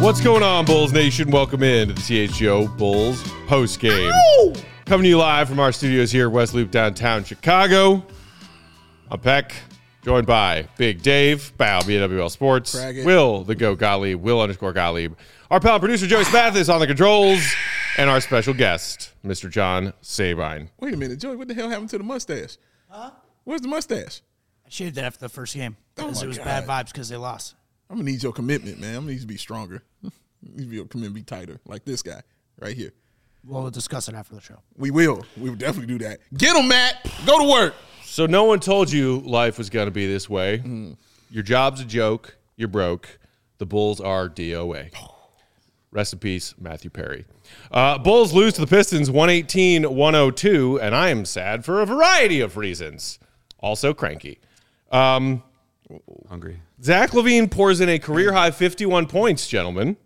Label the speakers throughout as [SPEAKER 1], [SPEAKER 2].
[SPEAKER 1] What's going on, Bulls Nation? Welcome in to the THGO Bulls postgame. Coming to you live from our studios here at West Loop, downtown Chicago. I'm Peck, joined by Big Dave, Bow, BNWL Sports, Will, the GOAT Gottlieb, Will_Gottlieb, our pal producer Joey Spathis on the controls, and our special guest, Mr. John Sabine.
[SPEAKER 2] Wait a minute, Joey, what the hell happened to the mustache?
[SPEAKER 3] Huh?
[SPEAKER 2] Where's the mustache?
[SPEAKER 3] I shaved it after the first game because it was
[SPEAKER 2] God.
[SPEAKER 3] bad vibes because they lost.
[SPEAKER 2] I'm going to need your commitment, man. I'm going to need you to be stronger. Your commitment be tighter, like this guy right here.
[SPEAKER 3] We'll discuss it after the show.
[SPEAKER 2] We will. We will definitely do that. Get him, Matt. Go to work.
[SPEAKER 1] So no one told you life was going to be this way. Your job's a joke. You're broke. The Bulls are DOA. Rest in peace, Matthew Perry. Bulls lose to the Pistons 118-102, and I am sad for a variety of reasons. Also cranky.
[SPEAKER 4] Hungry.
[SPEAKER 1] Zach LaVine pours in a career-high 51 points, gentlemen.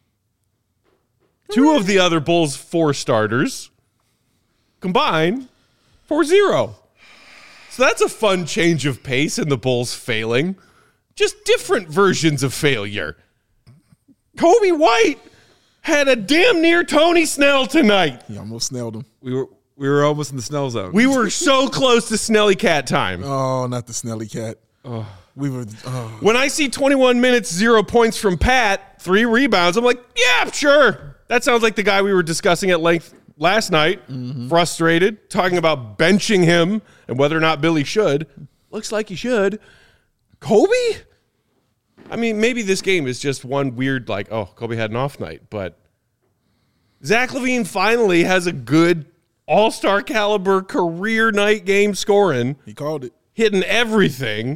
[SPEAKER 1] Two of the other Bulls' four starters combine for 0. So that's a fun change of pace in the Bulls failing. Just different versions of failure. Kobe White had a damn near Tony Snell tonight.
[SPEAKER 2] He almost snailed him.
[SPEAKER 4] We were almost in the Snell zone.
[SPEAKER 1] We were so close to Snelly Cat time.
[SPEAKER 2] Oh, not the Snelly Cat. We were.
[SPEAKER 1] When I see 21 minutes, 0 points from Pat, 3 rebounds, I'm like, yeah, sure. That sounds like the guy we were discussing at length last night. Frustrated, talking about benching him and whether or not Billy should. Looks like he should. Kobe? I mean, maybe this game is just one weird, like, oh, Kobe had an off night. But Zach LaVine finally has a good all-star caliber career night game scoring.
[SPEAKER 2] He called it.
[SPEAKER 1] Hitting everything.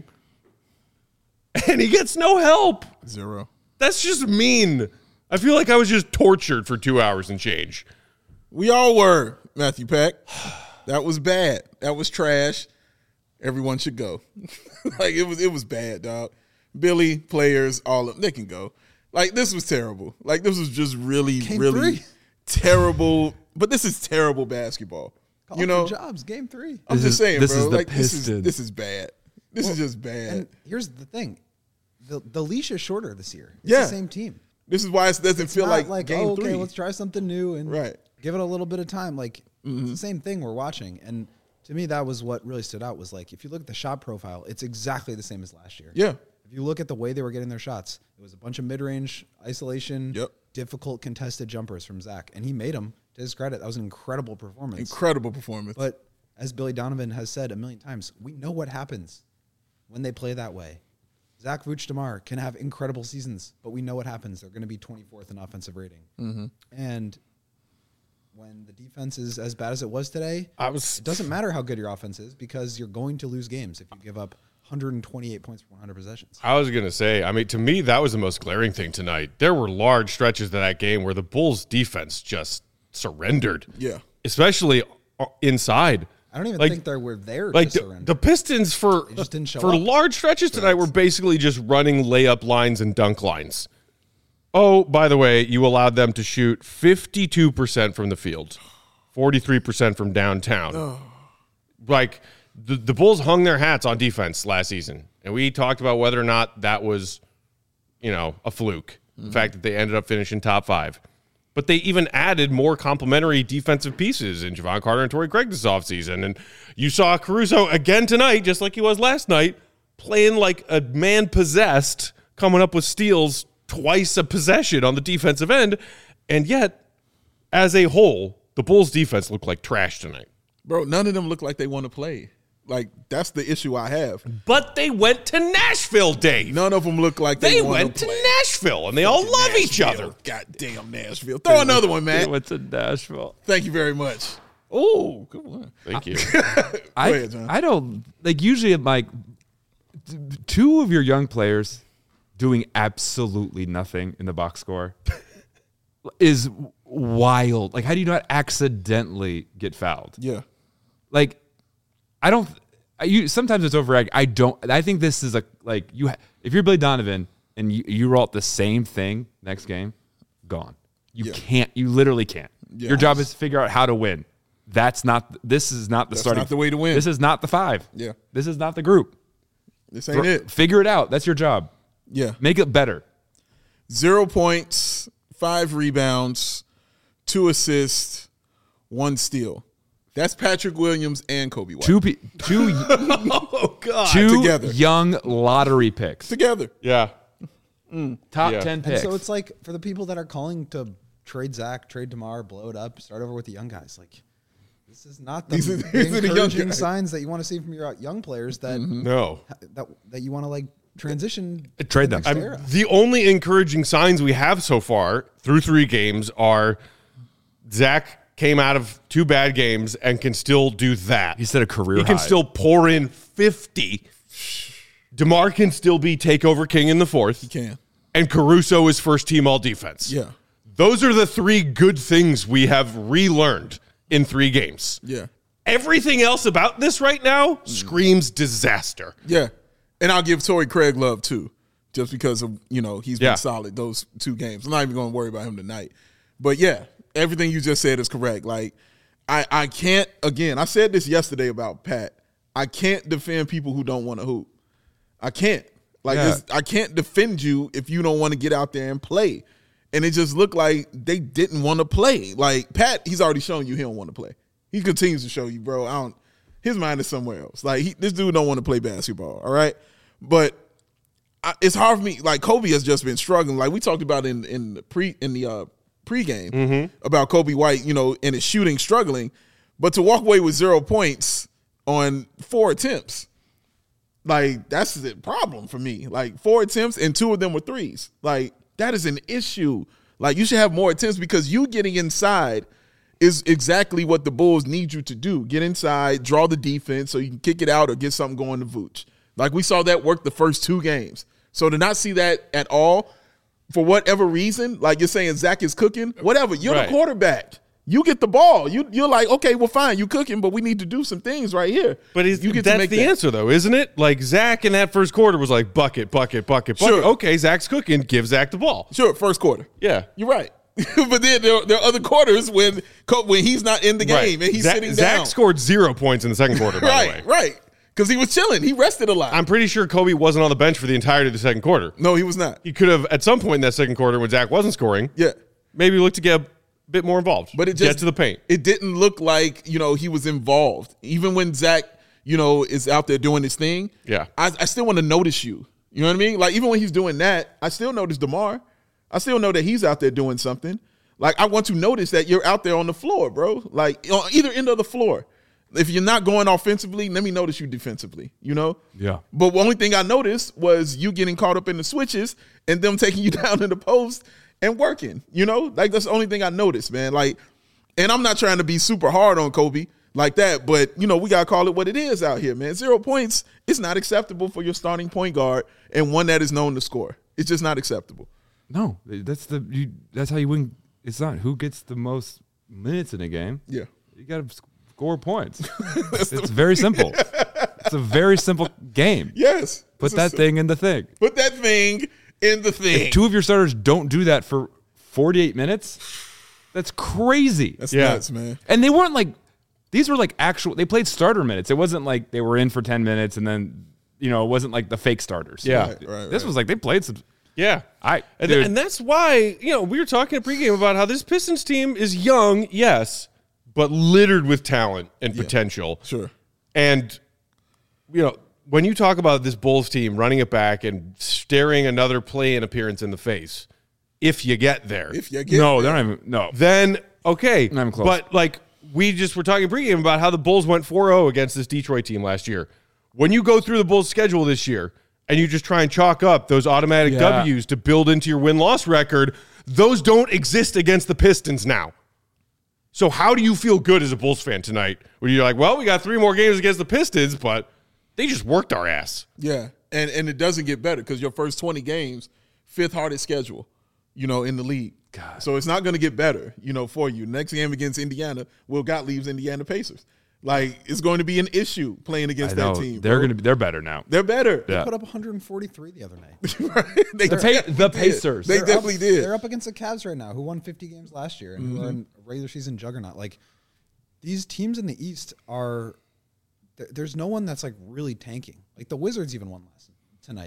[SPEAKER 1] And he gets no help.
[SPEAKER 2] 0.
[SPEAKER 1] That's just mean. I feel like I was just tortured for 2 hours and change.
[SPEAKER 2] We all were, Matthew Peck. That was bad. That was trash. Everyone should go. Like, it was bad, dog. Billy, players, all of them, they can go. Like, this was terrible. Like, this was just really, really terrible. But this is terrible basketball.
[SPEAKER 5] Call
[SPEAKER 2] you know,
[SPEAKER 5] for jobs, game 3.
[SPEAKER 2] I'm just saying,
[SPEAKER 4] this
[SPEAKER 2] bro.
[SPEAKER 4] is the
[SPEAKER 2] Like,
[SPEAKER 4] Pistons.
[SPEAKER 2] this is bad. This is just bad.
[SPEAKER 5] And here's the thing. The leash is shorter this year. It's
[SPEAKER 2] Yeah.
[SPEAKER 5] the same team.
[SPEAKER 2] This is why it doesn't feel
[SPEAKER 5] Not
[SPEAKER 2] like game
[SPEAKER 5] okay,
[SPEAKER 2] 3.
[SPEAKER 5] let's try something new and
[SPEAKER 2] Right.
[SPEAKER 5] give it a little bit of time. Like, it's the same thing we're watching. And to me, that was what really stood out was like, if you look at the shot profile, it's exactly the same as last year.
[SPEAKER 2] Yeah.
[SPEAKER 5] If you look at the way they were getting their shots, it was a bunch of mid-range isolation,
[SPEAKER 2] Yep.
[SPEAKER 5] difficult contested jumpers from Zach. And he made them. To his credit, that was an incredible performance.
[SPEAKER 2] Incredible performance.
[SPEAKER 5] But as Billy Donovan has said a million times, we know what happens when they play that way. Zach Vucdemar can have incredible seasons, but we know what happens. They're going to be 24th in offensive rating. And when the defense is as bad as it was today, it doesn't matter how good your offense is because you're going to lose games if you give up 128 points per 100 possessions.
[SPEAKER 1] I was going to say, I mean, to me, that was the most glaring thing tonight. There were large stretches of that game where the Bulls' defense just surrendered.
[SPEAKER 2] Yeah.
[SPEAKER 1] Especially inside.
[SPEAKER 5] I don't even think they were there
[SPEAKER 1] like
[SPEAKER 5] to surrender.
[SPEAKER 1] the Pistons for
[SPEAKER 5] just didn't show
[SPEAKER 1] for
[SPEAKER 5] up.
[SPEAKER 1] large stretches tonight were basically just running layup lines and dunk lines. Oh, by the way, you allowed them to shoot 52% from the field, 43% from downtown. Like the Bulls hung their hats on defense last season, and we talked about whether or not that was, a fluke. The fact that they ended up finishing top 5. But they even added more complementary defensive pieces in Javon Carter and Torrey Craig this offseason. And you saw Caruso again tonight, just like he was last night, playing like a man possessed, coming up with steals twice a possession on the defensive end. And yet, as a whole, the Bulls' defense looked like trash tonight.
[SPEAKER 2] Bro, none of them look like they want to play. Like, that's the issue I have.
[SPEAKER 1] But they went to Nashville, Dave.
[SPEAKER 2] None of them look like
[SPEAKER 1] They
[SPEAKER 2] want
[SPEAKER 1] went
[SPEAKER 2] to
[SPEAKER 1] to
[SPEAKER 2] play.
[SPEAKER 1] Nashville, and they all love each other.
[SPEAKER 2] Goddamn Nashville. Throw another one,
[SPEAKER 4] They
[SPEAKER 2] man.
[SPEAKER 4] went to Nashville.
[SPEAKER 2] Thank you very much.
[SPEAKER 1] Oh, good one. Thank you.
[SPEAKER 2] ahead, John.
[SPEAKER 4] I don't like usually like two of your young players doing absolutely nothing in the box score is wild. Like, how do you not accidentally get fouled?
[SPEAKER 2] Yeah.
[SPEAKER 4] Like, I don't. Sometimes it's overreacting. I think this is if you're Billy Donovan and you roll out the same thing next game, gone. You can't. You literally can't.
[SPEAKER 2] Yeah.
[SPEAKER 4] Your job is to figure out how to win. This is not the starting.
[SPEAKER 2] not the way to win.
[SPEAKER 4] This is not the 5.
[SPEAKER 2] Yeah.
[SPEAKER 4] This is not the group.
[SPEAKER 2] This ain't it.
[SPEAKER 4] Figure it out. That's your job.
[SPEAKER 2] Yeah.
[SPEAKER 4] Make it better.
[SPEAKER 2] 0 points, 5 rebounds, 2 assists, 1 steal. That's Patrick Williams and Kobe White.
[SPEAKER 4] Two
[SPEAKER 1] Oh God.
[SPEAKER 2] Together.
[SPEAKER 4] young lottery picks.
[SPEAKER 2] Together.
[SPEAKER 1] Yeah.
[SPEAKER 4] Top
[SPEAKER 1] Yeah.
[SPEAKER 4] 10
[SPEAKER 5] And
[SPEAKER 4] picks.
[SPEAKER 5] so it's like for the people that are calling to trade Zach, trade DeMar, blow it up, start over with the young guys. Like this is not the,
[SPEAKER 2] These are
[SPEAKER 5] the
[SPEAKER 2] the young
[SPEAKER 5] encouraging
[SPEAKER 2] guys.
[SPEAKER 5] signs that you want to see from your young players that
[SPEAKER 1] No.
[SPEAKER 5] that you want to like transition.
[SPEAKER 4] Trade
[SPEAKER 5] to
[SPEAKER 4] them.
[SPEAKER 5] the next era.
[SPEAKER 1] The only encouraging signs we have so far through 3 games are Zach came out of 2 bad games and can still do that.
[SPEAKER 4] He set a career
[SPEAKER 1] He can
[SPEAKER 4] high.
[SPEAKER 1] still pour in 50. DeMar can still be takeover king in the 4th. He
[SPEAKER 2] can.
[SPEAKER 1] And Caruso is first team all defense.
[SPEAKER 2] Yeah.
[SPEAKER 1] Those are the 3 good things we have relearned in 3 games.
[SPEAKER 2] Yeah.
[SPEAKER 1] Everything else about this right now screams disaster.
[SPEAKER 2] Yeah. And I'll give Torrey Craig love too, just because of, he's
[SPEAKER 1] Yeah.
[SPEAKER 2] been solid those 2 games. I'm not even going to worry about him tonight. But yeah, everything you just said is correct. Like, I can't, again, I said this yesterday about Pat. I can't defend people who don't want to hoop. I can't. Like,
[SPEAKER 4] Yeah.
[SPEAKER 2] I can't defend you if you don't want to get out there and play. And it just looked like they didn't want to play. Like, Pat, he's already shown you he don't want to play. He continues to show you, bro, his mind is somewhere else. Like, this dude don't want to play basketball, all right? But it's hard for me. Like, Kobe has just been struggling. Like, we talked about in the pregame about Kobe White, and his shooting struggling. But to walk away with 0 points on 4 attempts, like, that's the problem for me. Like, 4 attempts and 2 of them were threes. Like, that is an issue. Like, you should have more attempts because you getting inside is exactly what the Bulls need you to do. Get inside, draw the defense so you can kick it out or get something going to Vooch. Like, we saw that work the first 2 games. So to not see that at all, for whatever reason, like you're saying Zach is cooking, whatever, you're
[SPEAKER 1] Right.
[SPEAKER 2] the quarterback. You get the ball. You're like, okay, well, fine, you cooking, but we need to do some things right here.
[SPEAKER 1] But
[SPEAKER 2] you get to
[SPEAKER 1] that's
[SPEAKER 2] make
[SPEAKER 1] the
[SPEAKER 2] that.
[SPEAKER 1] answer, though, isn't it? Like, Zach in that first quarter was like, bucket, bucket, bucket, bucket.
[SPEAKER 2] Sure.
[SPEAKER 1] Okay, Zach's cooking. Give Zach the ball.
[SPEAKER 2] Sure, first quarter.
[SPEAKER 1] Yeah.
[SPEAKER 2] You're right. But then there are other quarters when he's not in the game and he's sitting
[SPEAKER 1] Zach
[SPEAKER 2] down.
[SPEAKER 1] scored 0 points in the second quarter, by the way.
[SPEAKER 2] Right. Because he was chilling. He rested a lot.
[SPEAKER 1] I'm pretty sure Kobe wasn't on the bench for the entirety of the second quarter.
[SPEAKER 2] No, he was not.
[SPEAKER 1] He could have, at some point in that second quarter when Zach wasn't scoring,
[SPEAKER 2] Yeah.
[SPEAKER 1] maybe look to get a bit more involved.
[SPEAKER 2] But it just
[SPEAKER 1] get to the paint.
[SPEAKER 2] It didn't look like, he was involved. Even when Zach, is out there doing his thing.
[SPEAKER 1] Yeah.
[SPEAKER 2] I still want to notice you. You know what I mean? Like, even when he's doing that, I still notice DeMar. I still know that he's out there doing something. Like, I want to notice that you're out there on the floor, bro. Like, on either end of the floor. If you're not going offensively, let me notice you defensively,
[SPEAKER 4] Yeah.
[SPEAKER 2] But the only thing I noticed was you getting caught up in the switches and them taking you down in the post and working, Like, that's the only thing I noticed, man. Like, and I'm not trying to be super hard on Kobe like that, but, we got to call it what it is out here, man. 0 points is not acceptable for your starting point guard and one that is known to score. It's just not acceptable.
[SPEAKER 4] No, that's how you win. It's not who gets the most minutes in a game.
[SPEAKER 2] Yeah.
[SPEAKER 4] You got to score points. It's very simple. It's a very simple game.
[SPEAKER 2] Yes.
[SPEAKER 4] Put that thing in the thing.
[SPEAKER 2] Put that thing in the thing.
[SPEAKER 4] If 2 of your starters don't do that for 48 minutes, that's crazy.
[SPEAKER 2] That's
[SPEAKER 1] Yeah.
[SPEAKER 2] nuts, man.
[SPEAKER 4] And they weren't like, these were like they played starter minutes. It wasn't like they were in for 10 minutes and then, it wasn't like the fake starters.
[SPEAKER 1] Yeah.
[SPEAKER 4] This was like they played some.
[SPEAKER 1] Yeah. And,
[SPEAKER 4] dude.
[SPEAKER 1] and that's why, we were talking at pregame about how this Pistons team is young, yes, but littered with talent and potential.
[SPEAKER 2] Sure.
[SPEAKER 1] And, when you talk about this Bulls team running it back and staring another play-in appearance in the face, if you get there,
[SPEAKER 2] If you get
[SPEAKER 4] No,
[SPEAKER 2] there.
[SPEAKER 4] they're not even. No.
[SPEAKER 1] then okay.
[SPEAKER 4] Not even close.
[SPEAKER 1] But, we just were talking pregame about how the Bulls went 4-0 against this Detroit team last year. When you go through the Bulls' schedule this year, and you just try and chalk up those automatic
[SPEAKER 4] Yeah.
[SPEAKER 1] W's to build into your win-loss record, those don't exist against the Pistons now. So how do you feel good as a Bulls fan tonight when you're like, well, we got 3 more games against the Pistons, but they just worked our ass.
[SPEAKER 2] Yeah, and it doesn't get better because your first 20 games, 5th hardest schedule, in the league. God. So it's not going to get better, for you. Next game against Indiana, Will Gottlieb's Indiana Pacers. Like, it's going to be an issue playing against
[SPEAKER 4] I know.
[SPEAKER 2] that team.
[SPEAKER 4] They're
[SPEAKER 2] bro.
[SPEAKER 4] they're better now.
[SPEAKER 2] They're better.
[SPEAKER 4] Yeah.
[SPEAKER 5] Put up 143 the other night.
[SPEAKER 2] They
[SPEAKER 4] The
[SPEAKER 2] definitely
[SPEAKER 4] Pacers.
[SPEAKER 2] did. They
[SPEAKER 5] They're
[SPEAKER 2] definitely
[SPEAKER 5] up,
[SPEAKER 2] did.
[SPEAKER 5] They're up against the Cavs right now, who won 50 games last year and who are in a regular season juggernaut. Like, these teams in the East are there's no one that's like really tanking. Like the Wizards even won last tonight.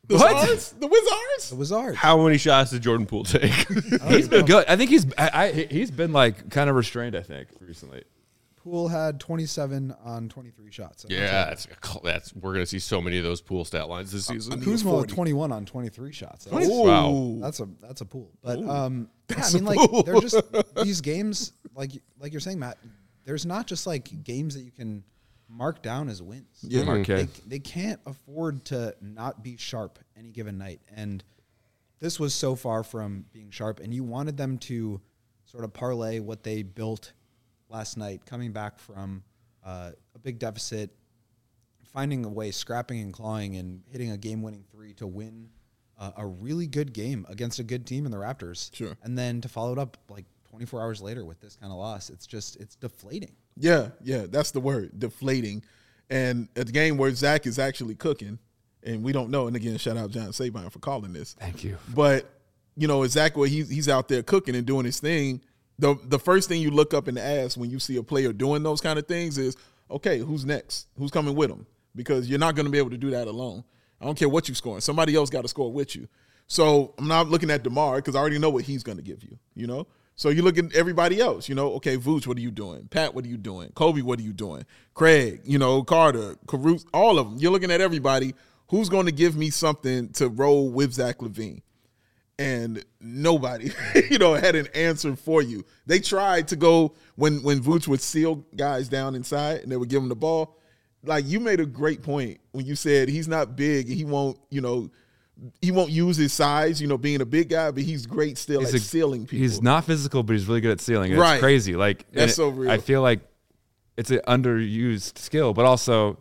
[SPEAKER 2] The
[SPEAKER 4] What?
[SPEAKER 2] Wizards? The Wizards?
[SPEAKER 5] The Wizards.
[SPEAKER 1] How many shots did Jordan Poole take?
[SPEAKER 4] He's been good. I think he's been like kind of restrained, I think, recently.
[SPEAKER 5] Poole had 27 on 23 shots.
[SPEAKER 1] Yeah, that's we're gonna see so many of those Poole stat lines this season.
[SPEAKER 5] Kuzma with 21 on 23 shots. That's,
[SPEAKER 1] Wow.
[SPEAKER 5] that's a pool. But yeah, I mean, like they're just these games, like you're saying, Matt. There's not just like games that you can mark down as wins.
[SPEAKER 2] Yeah.
[SPEAKER 4] Marquette.
[SPEAKER 5] They can't afford to not be sharp any given night. And this was so far from being sharp. And you wanted them to sort of parlay what they built last night, coming back from a big deficit, finding a way, scrapping and clawing, and hitting a game-winning three to win a really good game against a good team in the Raptors.
[SPEAKER 2] Sure.
[SPEAKER 5] And then to follow it up like 24 hours later with this kind of loss, it's deflating.
[SPEAKER 2] Yeah, that's the word, deflating. And at the game where Zach is actually cooking, and we don't know, and again, shout out John Sabine for calling this.
[SPEAKER 4] Thank you.
[SPEAKER 2] But, you know, exactly he's out there cooking and doing his thing. The first thing you look up and ask when you see a player doing those kind of things is, okay, who's next? Who's coming with him? Because you're not going to be able to do that alone. I don't care what you're scoring. Somebody else got to score with you. So I'm not looking at DeMar because I already know what he's going to give you, you know? So you look at everybody else, you know, okay, Vooch, what are you doing? Pat, what are you doing? Kobe, what are you doing? Craig, you know, Carter, Caruso, all of them. You're looking at everybody. Who's going to give me something to roll with Zach LaVine? And nobody, you know, had an answer for you. They tried to go when Vooch would seal guys down inside and they would give him the ball. Like, you made a great point when you said he's not big and he won't use his size, you know, being a big guy, but he's great still at sealing people.
[SPEAKER 4] He's not physical, but he's really good at sealing. It's
[SPEAKER 2] Right.
[SPEAKER 4] crazy. Like,
[SPEAKER 2] That's so real.
[SPEAKER 4] I feel like it's an underused skill, but also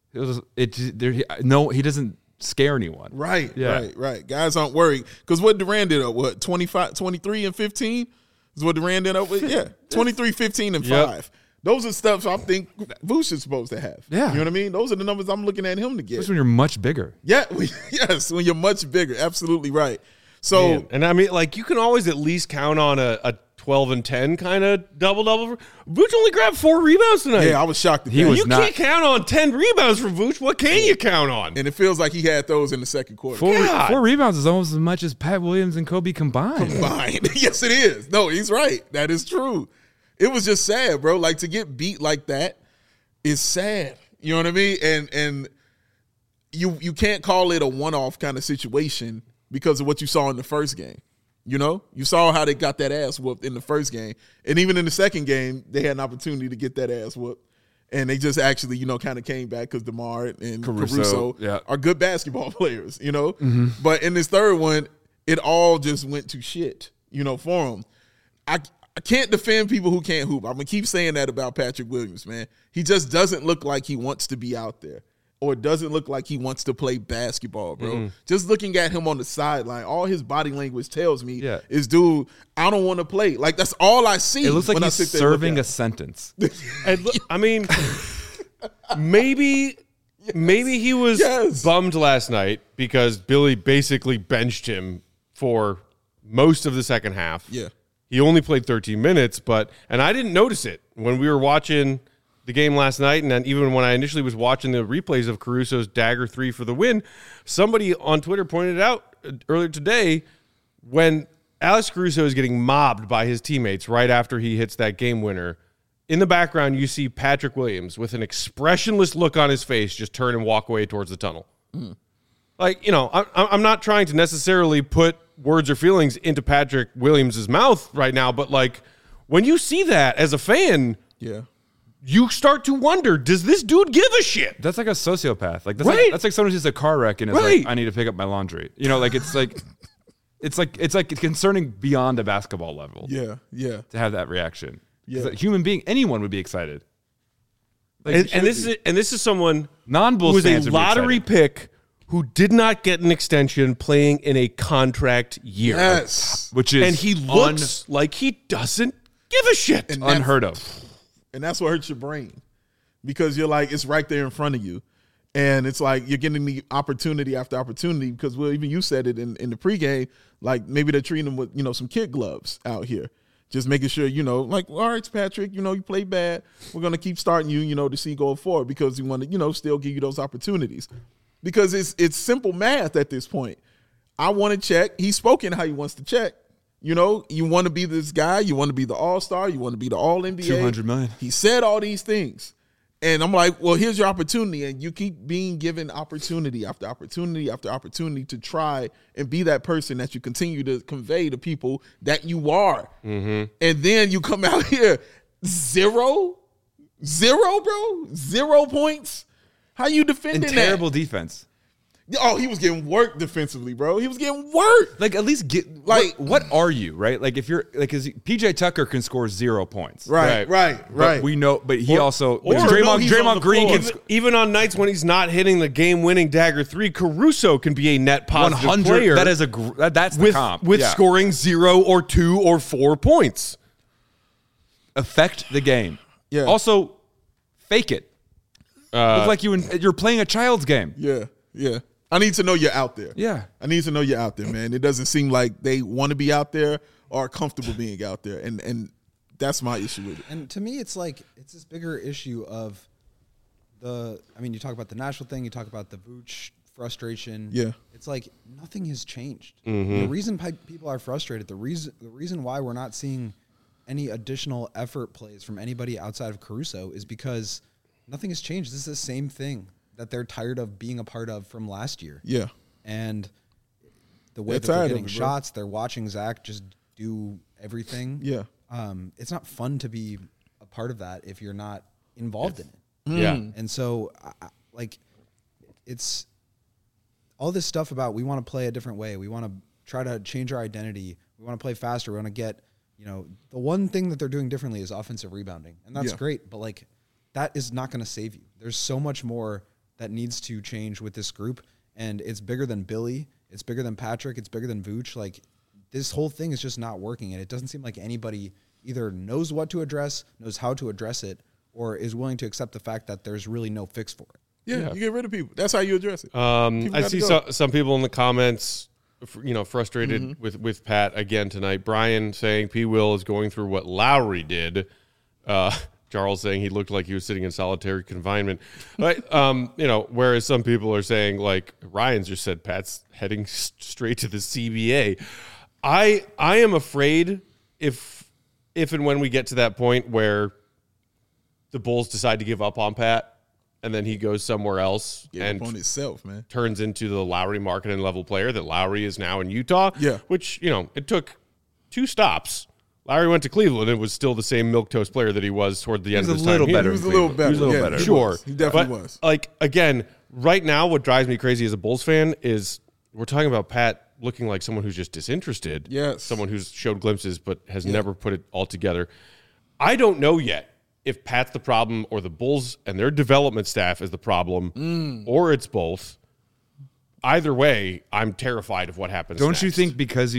[SPEAKER 4] he doesn't scare anyone.
[SPEAKER 2] Right,
[SPEAKER 4] Yeah.
[SPEAKER 2] right. Guys aren't worried. Because what Durant did up, 23 and 15 is what Durant did up with? Yeah, 23, 15, and 5. Those are stuff I think Vooch is supposed to have.
[SPEAKER 4] Yeah.
[SPEAKER 2] You know what I mean? Those are the numbers I'm looking at him to get.
[SPEAKER 4] Especially when you're much bigger.
[SPEAKER 2] Yeah, yes, when you're much bigger. Absolutely right. So,
[SPEAKER 1] Man, and I mean, like, you can always at least count on a 12 and 10 kind of double-double. Vooch only grabbed 4 rebounds tonight.
[SPEAKER 2] yeah, I was shocked at
[SPEAKER 4] He
[SPEAKER 2] that.
[SPEAKER 4] was
[SPEAKER 1] You
[SPEAKER 4] not-
[SPEAKER 1] can't count on 10 rebounds from Vooch. What can you count on?
[SPEAKER 2] And it feels like he had those in the second quarter.
[SPEAKER 4] Four rebounds is almost as much as Pat Williams and Kobe combined.
[SPEAKER 2] Fine. Yes, it is. No, he's right. That is true. It was just sad, bro. Like, to get beat like that is sad. You know what I mean? And you can't call it a one-off kind of situation because of what you saw in the first game. You know? You saw how they got that ass whooped in the first game. And even in the second game, they had an opportunity to get that ass whooped. And they just actually, you know, kind of came back because DeMar and Caruso
[SPEAKER 4] yeah.
[SPEAKER 2] are good basketball players, you know? But in this third one, it all just went to shit, you know, for them. I can't defend people who can't hoop. I'm going to keep saying that about Patrick Williams, man. He just doesn't look like he wants to be out there or doesn't look like he wants to play basketball, bro. Just looking at him on the sideline, all his body language tells me is, dude, I don't want to play. Like, that's all I see.
[SPEAKER 4] It looks like
[SPEAKER 2] when
[SPEAKER 4] he's
[SPEAKER 2] I sit there and look
[SPEAKER 4] serving
[SPEAKER 2] at
[SPEAKER 4] a
[SPEAKER 2] him.
[SPEAKER 4] sentence.
[SPEAKER 1] And look, I mean, maybe he was
[SPEAKER 2] Yes.
[SPEAKER 1] bummed last night because Billy basically benched him for most of the second half.
[SPEAKER 2] Yeah.
[SPEAKER 1] He only played 13 minutes, and I didn't notice it when we were watching the game last night, and then even when I initially was watching the replays of Caruso's dagger 3 for the win, somebody on Twitter pointed out earlier today when Alex Caruso is getting mobbed by his teammates right after he hits that game winner. In the background, you see Patrick Williams with an expressionless look on his face just turn and walk away towards the tunnel. Like, you know, I'm not trying to necessarily put words or feelings into Patrick Williams' mouth right now, but, like, when you see that as a fan,
[SPEAKER 2] Yeah.
[SPEAKER 1] you start to wonder, does this dude give a shit?
[SPEAKER 4] That's like a sociopath. Like that's
[SPEAKER 1] Right.
[SPEAKER 4] like someone who's just a car wreck and is
[SPEAKER 1] Right.
[SPEAKER 4] like, I need to pick up my laundry. You know, like it's like concerning beyond a basketball level
[SPEAKER 2] Yeah. Yeah.
[SPEAKER 4] to have that reaction.
[SPEAKER 2] Yeah.
[SPEAKER 4] A human being, anyone would be excited. Like,
[SPEAKER 1] And this is someone
[SPEAKER 4] non-Bulls
[SPEAKER 1] who was
[SPEAKER 4] fans
[SPEAKER 1] a
[SPEAKER 4] would be
[SPEAKER 1] lottery
[SPEAKER 4] excited.
[SPEAKER 1] pick who did not get an extension playing in a contract year.
[SPEAKER 2] Yes.
[SPEAKER 4] which is
[SPEAKER 1] And he looks like he doesn't give a shit.
[SPEAKER 2] And that's-
[SPEAKER 4] unheard of.
[SPEAKER 2] And that's what hurts your brain because you're like, it's right there in front of you. And it's like you're getting the opportunity after opportunity because, well, even you said it in the pregame, like maybe they're treating them with, you know, some kid gloves out here. Just making sure, you know, like, all right, Patrick, you know, you play bad. We're going to keep starting you, you know, to see going forward because we want to, you know, still give you those opportunities. because it's simple math at this point. I want to check. He's spoken how he wants to check. You know, you want to be this guy. You want to be the all-star. You want to be the all-NBA.
[SPEAKER 4] $200 million.
[SPEAKER 2] He said all these things. And I'm like, well, here's your opportunity. And you keep being given opportunity after opportunity after opportunity to try and be that person that you continue to convey to people that you are. And then you come out here, zero, bro? 0 points? How you defending
[SPEAKER 4] And
[SPEAKER 2] that?
[SPEAKER 4] terrible defense.
[SPEAKER 2] Oh, he was getting work defensively, bro. He was getting work.
[SPEAKER 4] Like, at least get
[SPEAKER 2] Like-
[SPEAKER 4] what are you, right? Like, if you're like, because PJ Tucker can score 0 points,
[SPEAKER 2] Right.
[SPEAKER 4] But we know, but he also
[SPEAKER 2] or
[SPEAKER 4] Draymond,
[SPEAKER 2] he's on
[SPEAKER 4] Draymond
[SPEAKER 2] the
[SPEAKER 4] Green
[SPEAKER 2] floor.
[SPEAKER 4] can
[SPEAKER 1] Even on nights when he's not hitting the game-winning dagger 3, Caruso can be a net positive
[SPEAKER 4] 100.
[SPEAKER 1] player.
[SPEAKER 4] That is that's the
[SPEAKER 1] with
[SPEAKER 4] comp
[SPEAKER 1] with
[SPEAKER 4] Yeah.
[SPEAKER 1] scoring 0 or 2 or 4 points.
[SPEAKER 4] affect the game.
[SPEAKER 2] Yeah.
[SPEAKER 4] Also, fake it. Look like you're playing a child's game.
[SPEAKER 2] Yeah. I need to know you're out there.
[SPEAKER 4] Yeah.
[SPEAKER 2] I need to know you're out there, man. It doesn't seem like they want to be out there or are comfortable being out there. And that's my issue with it.
[SPEAKER 5] And to me, it's like it's this bigger issue of you talk about the national thing, you talk about the Vooch frustration.
[SPEAKER 2] Yeah.
[SPEAKER 5] It's like nothing has changed. The reason people are frustrated, the reason why we're not seeing any additional effort plays from anybody outside of Caruso is because nothing has changed. This is the same thing that they're tired of being a part of from last year.
[SPEAKER 2] Yeah.
[SPEAKER 5] And the way
[SPEAKER 2] They're
[SPEAKER 5] that they're
[SPEAKER 2] tired of
[SPEAKER 5] getting
[SPEAKER 2] it, bro.
[SPEAKER 5] shots, they're watching Zach just do everything.
[SPEAKER 2] Yeah.
[SPEAKER 5] It's not fun to be a part of that if you're not involved in it.
[SPEAKER 1] Yeah.
[SPEAKER 5] And so, it's all this stuff about we want to play a different way. We want to try to change our identity. We want to play faster. We want to get, the one thing that they're doing differently is offensive rebounding. And that's
[SPEAKER 2] Yeah.
[SPEAKER 5] great. But, that is not going to save you. There's so much more that needs to change with this group. And it's bigger than Billy. It's bigger than Patrick. It's bigger than Vooch. This whole thing is just not working. And it doesn't seem like anybody either knows what to address, knows how to address it, or is willing to accept the fact that there's really no fix for it.
[SPEAKER 2] Yeah. You get rid of people. That's how you address it. People
[SPEAKER 1] I
[SPEAKER 2] gotta
[SPEAKER 1] see
[SPEAKER 2] go.
[SPEAKER 1] some people in the comments, frustrated with Pat again tonight. Brian saying P. Will is going through what Lowry did. Charles saying he looked like he was sitting in solitary confinement. But, whereas some people are saying, like Ryan's just said, Pat's heading straight to the CBA. I am afraid if and when we get to that point where the Bulls decide to give up on Pat and then he goes somewhere else
[SPEAKER 2] Get
[SPEAKER 1] and
[SPEAKER 2] up on itself, man.
[SPEAKER 1] turns into the Lowry marketing level player that Lowry is now in Utah.
[SPEAKER 2] Yeah.
[SPEAKER 1] Which, it took 2 stops. Lowry went to Cleveland and was still the same milquetoast player that he was toward the end of
[SPEAKER 4] was
[SPEAKER 1] his
[SPEAKER 4] a
[SPEAKER 1] time
[SPEAKER 4] little
[SPEAKER 1] here.
[SPEAKER 4] better.
[SPEAKER 2] He was a little better.
[SPEAKER 4] He was a little
[SPEAKER 2] Yeah,
[SPEAKER 4] better.
[SPEAKER 2] he
[SPEAKER 1] Sure.
[SPEAKER 2] was. He definitely
[SPEAKER 1] But,
[SPEAKER 2] was.
[SPEAKER 1] again, right now what drives me crazy as a Bulls fan is we're talking about Pat looking like someone who's just disinterested.
[SPEAKER 2] Yes.
[SPEAKER 1] Someone who's showed glimpses but has never put it all together. I don't know yet if Pat's the problem or the Bulls and their development staff is the problem or it's both. Either way, I'm terrified of what happens
[SPEAKER 4] Don't
[SPEAKER 1] next.
[SPEAKER 4] you think because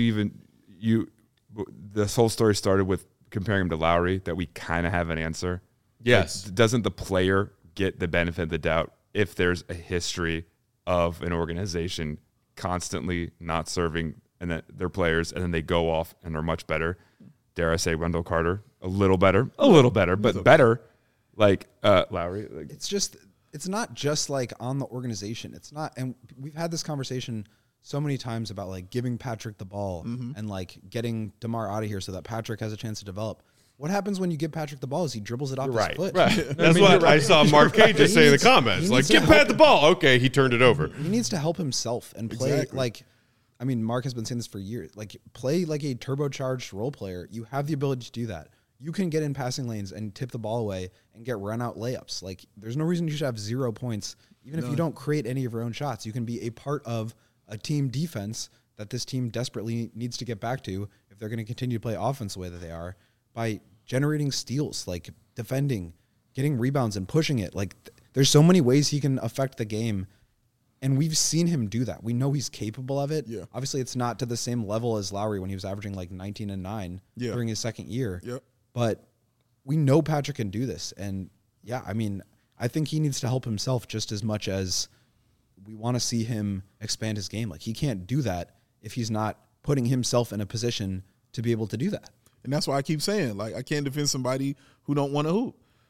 [SPEAKER 4] this whole story started with comparing him to Lowry that we kind of have an answer?
[SPEAKER 1] Yes.
[SPEAKER 4] Like, doesn't the player get the benefit of the doubt if there's a history of an organization constantly not serving and then their players and then they go off and are much better? Dare I say Wendell Carter? A little better, but better. Like Lowry. Like,
[SPEAKER 5] It's not just on the organization. It's not, and we've had this conversation so many times about giving Patrick the ball and getting DeMar out of here so that Patrick has a chance to develop. What happens when you give Patrick the ball is he dribbles it off his foot.
[SPEAKER 1] Right. That's what I saw Mark K just say in the comments.
[SPEAKER 5] he
[SPEAKER 1] Like,
[SPEAKER 5] needs to
[SPEAKER 1] give Pat the ball. Okay, he turned it over.
[SPEAKER 5] He needs to help himself and play
[SPEAKER 2] Exactly.
[SPEAKER 5] Mark has been saying this for years. Play like a turbocharged role player. You have the ability to do that. You can get in passing lanes and tip the ball away and get run out layups. There's no reason you should have 0 points, even if you don't create any of your own shots. You can be a part of a team defense that this team desperately needs to get back to if they're going to continue to play offense the way that they are by generating steals, defending, getting rebounds and pushing it. There's so many ways he can affect the game. And we've seen him do that. We know he's capable of it.
[SPEAKER 2] Yeah.
[SPEAKER 5] Obviously, it's not to the same level as Lowry when he was averaging 19 and 9 during his second year.
[SPEAKER 2] Yep.
[SPEAKER 5] But we know Patrick can do this. And I think he needs to help himself just as much as we want to see him expand his game. He can't do that if he's not putting himself in a position to be able to do that.
[SPEAKER 2] And that's why I keep saying, I can't defend somebody who don't want to hoop.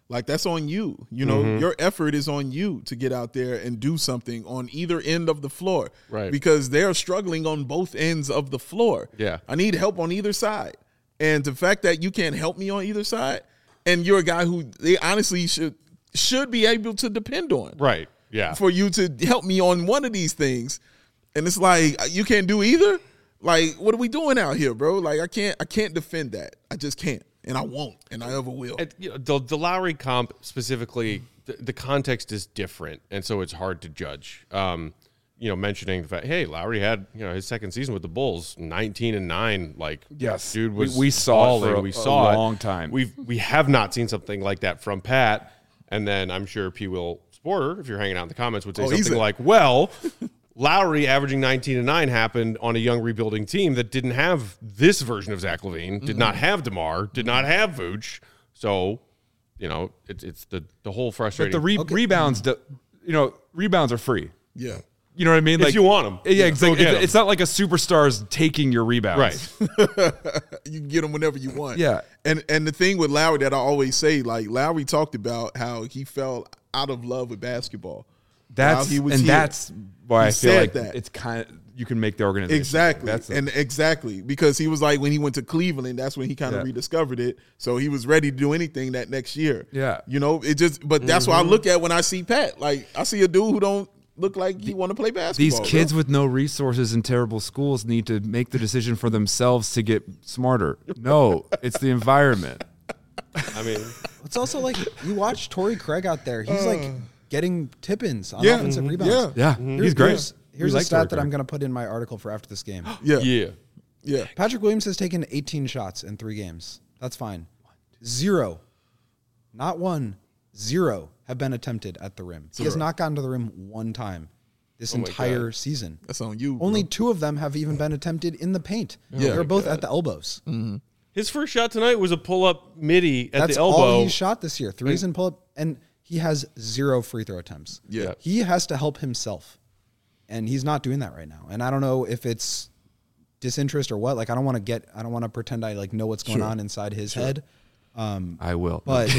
[SPEAKER 2] Like, that's on you. You know, your effort is on you to get out there and do something on either end of the floor.
[SPEAKER 1] Right.
[SPEAKER 2] Because they're struggling on both ends of the floor.
[SPEAKER 1] Yeah.
[SPEAKER 2] I need help on either side. And the fact that you can't help me on either side, and you're a guy who they honestly should be able to depend on.
[SPEAKER 1] Right. Yeah.
[SPEAKER 2] For you to help me on one of these things. And it's like, you can't do either? Like, what are we doing out here, bro? Like, I can't defend that. I just can't. And I won't, and I ever will.
[SPEAKER 1] And, you know, the Lowry comp specifically, the context is different, and so it's hard to judge. You know, mentioning the fact, hey, Lowry had, you know, his second season with the Bulls, 19-9. Like,
[SPEAKER 4] Yes.
[SPEAKER 1] dude was
[SPEAKER 4] We saw it
[SPEAKER 1] balling.
[SPEAKER 4] for a
[SPEAKER 1] We saw
[SPEAKER 4] long
[SPEAKER 1] it.
[SPEAKER 4] time.
[SPEAKER 1] We have not seen something like that from Pat, and then I'm sure P. Will Sporter, if you're hanging out in the comments, would say something like, well, Lowry averaging 19-9 happened on a young rebuilding team that didn't have this version of Zach LaVine, did not have DeMar, did not have Vooch. So, you know, it's the whole
[SPEAKER 4] But
[SPEAKER 1] frustrating.
[SPEAKER 4] the rebounds, rebounds are free.
[SPEAKER 2] Yeah.
[SPEAKER 4] You know what I mean?
[SPEAKER 1] If you want 'em.
[SPEAKER 4] Yeah, exactly.
[SPEAKER 1] Go get 'em.
[SPEAKER 4] It's not like a superstar's taking your rebounds.
[SPEAKER 1] right.
[SPEAKER 2] You can get them whenever you want.
[SPEAKER 4] Yeah.
[SPEAKER 2] And the thing with Lowry that I always say, like, Lowry talked about how he fell out of love with basketball.
[SPEAKER 4] That's
[SPEAKER 2] while he was
[SPEAKER 4] and
[SPEAKER 2] here.
[SPEAKER 4] that's why
[SPEAKER 2] He
[SPEAKER 4] I feel
[SPEAKER 2] said
[SPEAKER 4] like
[SPEAKER 2] that.
[SPEAKER 4] it's kind of you can make the organization.
[SPEAKER 2] Exactly.
[SPEAKER 4] That's
[SPEAKER 2] Exactly. Because he was like, when he went to Cleveland, that's when he kind of
[SPEAKER 4] Yeah.
[SPEAKER 2] rediscovered it. So he was ready to do anything that next year.
[SPEAKER 4] Yeah.
[SPEAKER 2] You know, but that's what I look at when I see Pat. Like, I see a dude who don't look like he want to play basketball.
[SPEAKER 4] These kids
[SPEAKER 2] bro.
[SPEAKER 4] with no resources in terrible schools need to make the decision for themselves to get smarter. No, it's the environment.
[SPEAKER 1] I mean,
[SPEAKER 5] It's also like you watch Torrey Craig out there. He's like getting tip-ins on
[SPEAKER 2] Yeah.
[SPEAKER 5] offensive rebounds.
[SPEAKER 4] Yeah, he's great.
[SPEAKER 5] Here's
[SPEAKER 4] We
[SPEAKER 5] a
[SPEAKER 4] like
[SPEAKER 5] stat
[SPEAKER 4] Torrey
[SPEAKER 5] that I'm
[SPEAKER 4] Craig.
[SPEAKER 5] going to put in my article for after this game.
[SPEAKER 2] Yeah.
[SPEAKER 1] yeah.
[SPEAKER 5] Patrick Williams has taken 18 shots in 3 games. That's fine. 0, not 1, 0 have been attempted at the rim. He has not gotten to the rim one time this entire season.
[SPEAKER 2] That's on you.
[SPEAKER 5] Only
[SPEAKER 2] bro.
[SPEAKER 5] 2 of them have even been attempted in the paint.
[SPEAKER 2] Yeah.
[SPEAKER 5] They're both at the elbows.
[SPEAKER 1] His first shot tonight was a pull-up midi at
[SPEAKER 5] That's
[SPEAKER 1] the elbow.
[SPEAKER 5] all he's shot this year. 3s and pull-up, and he has 0 free throw attempts.
[SPEAKER 2] Yeah.
[SPEAKER 5] He has to help himself, and he's not doing that right now. And I don't know if it's disinterest or what. Like, I don't want to pretend I like know what's going on inside his head.
[SPEAKER 4] I will.
[SPEAKER 5] But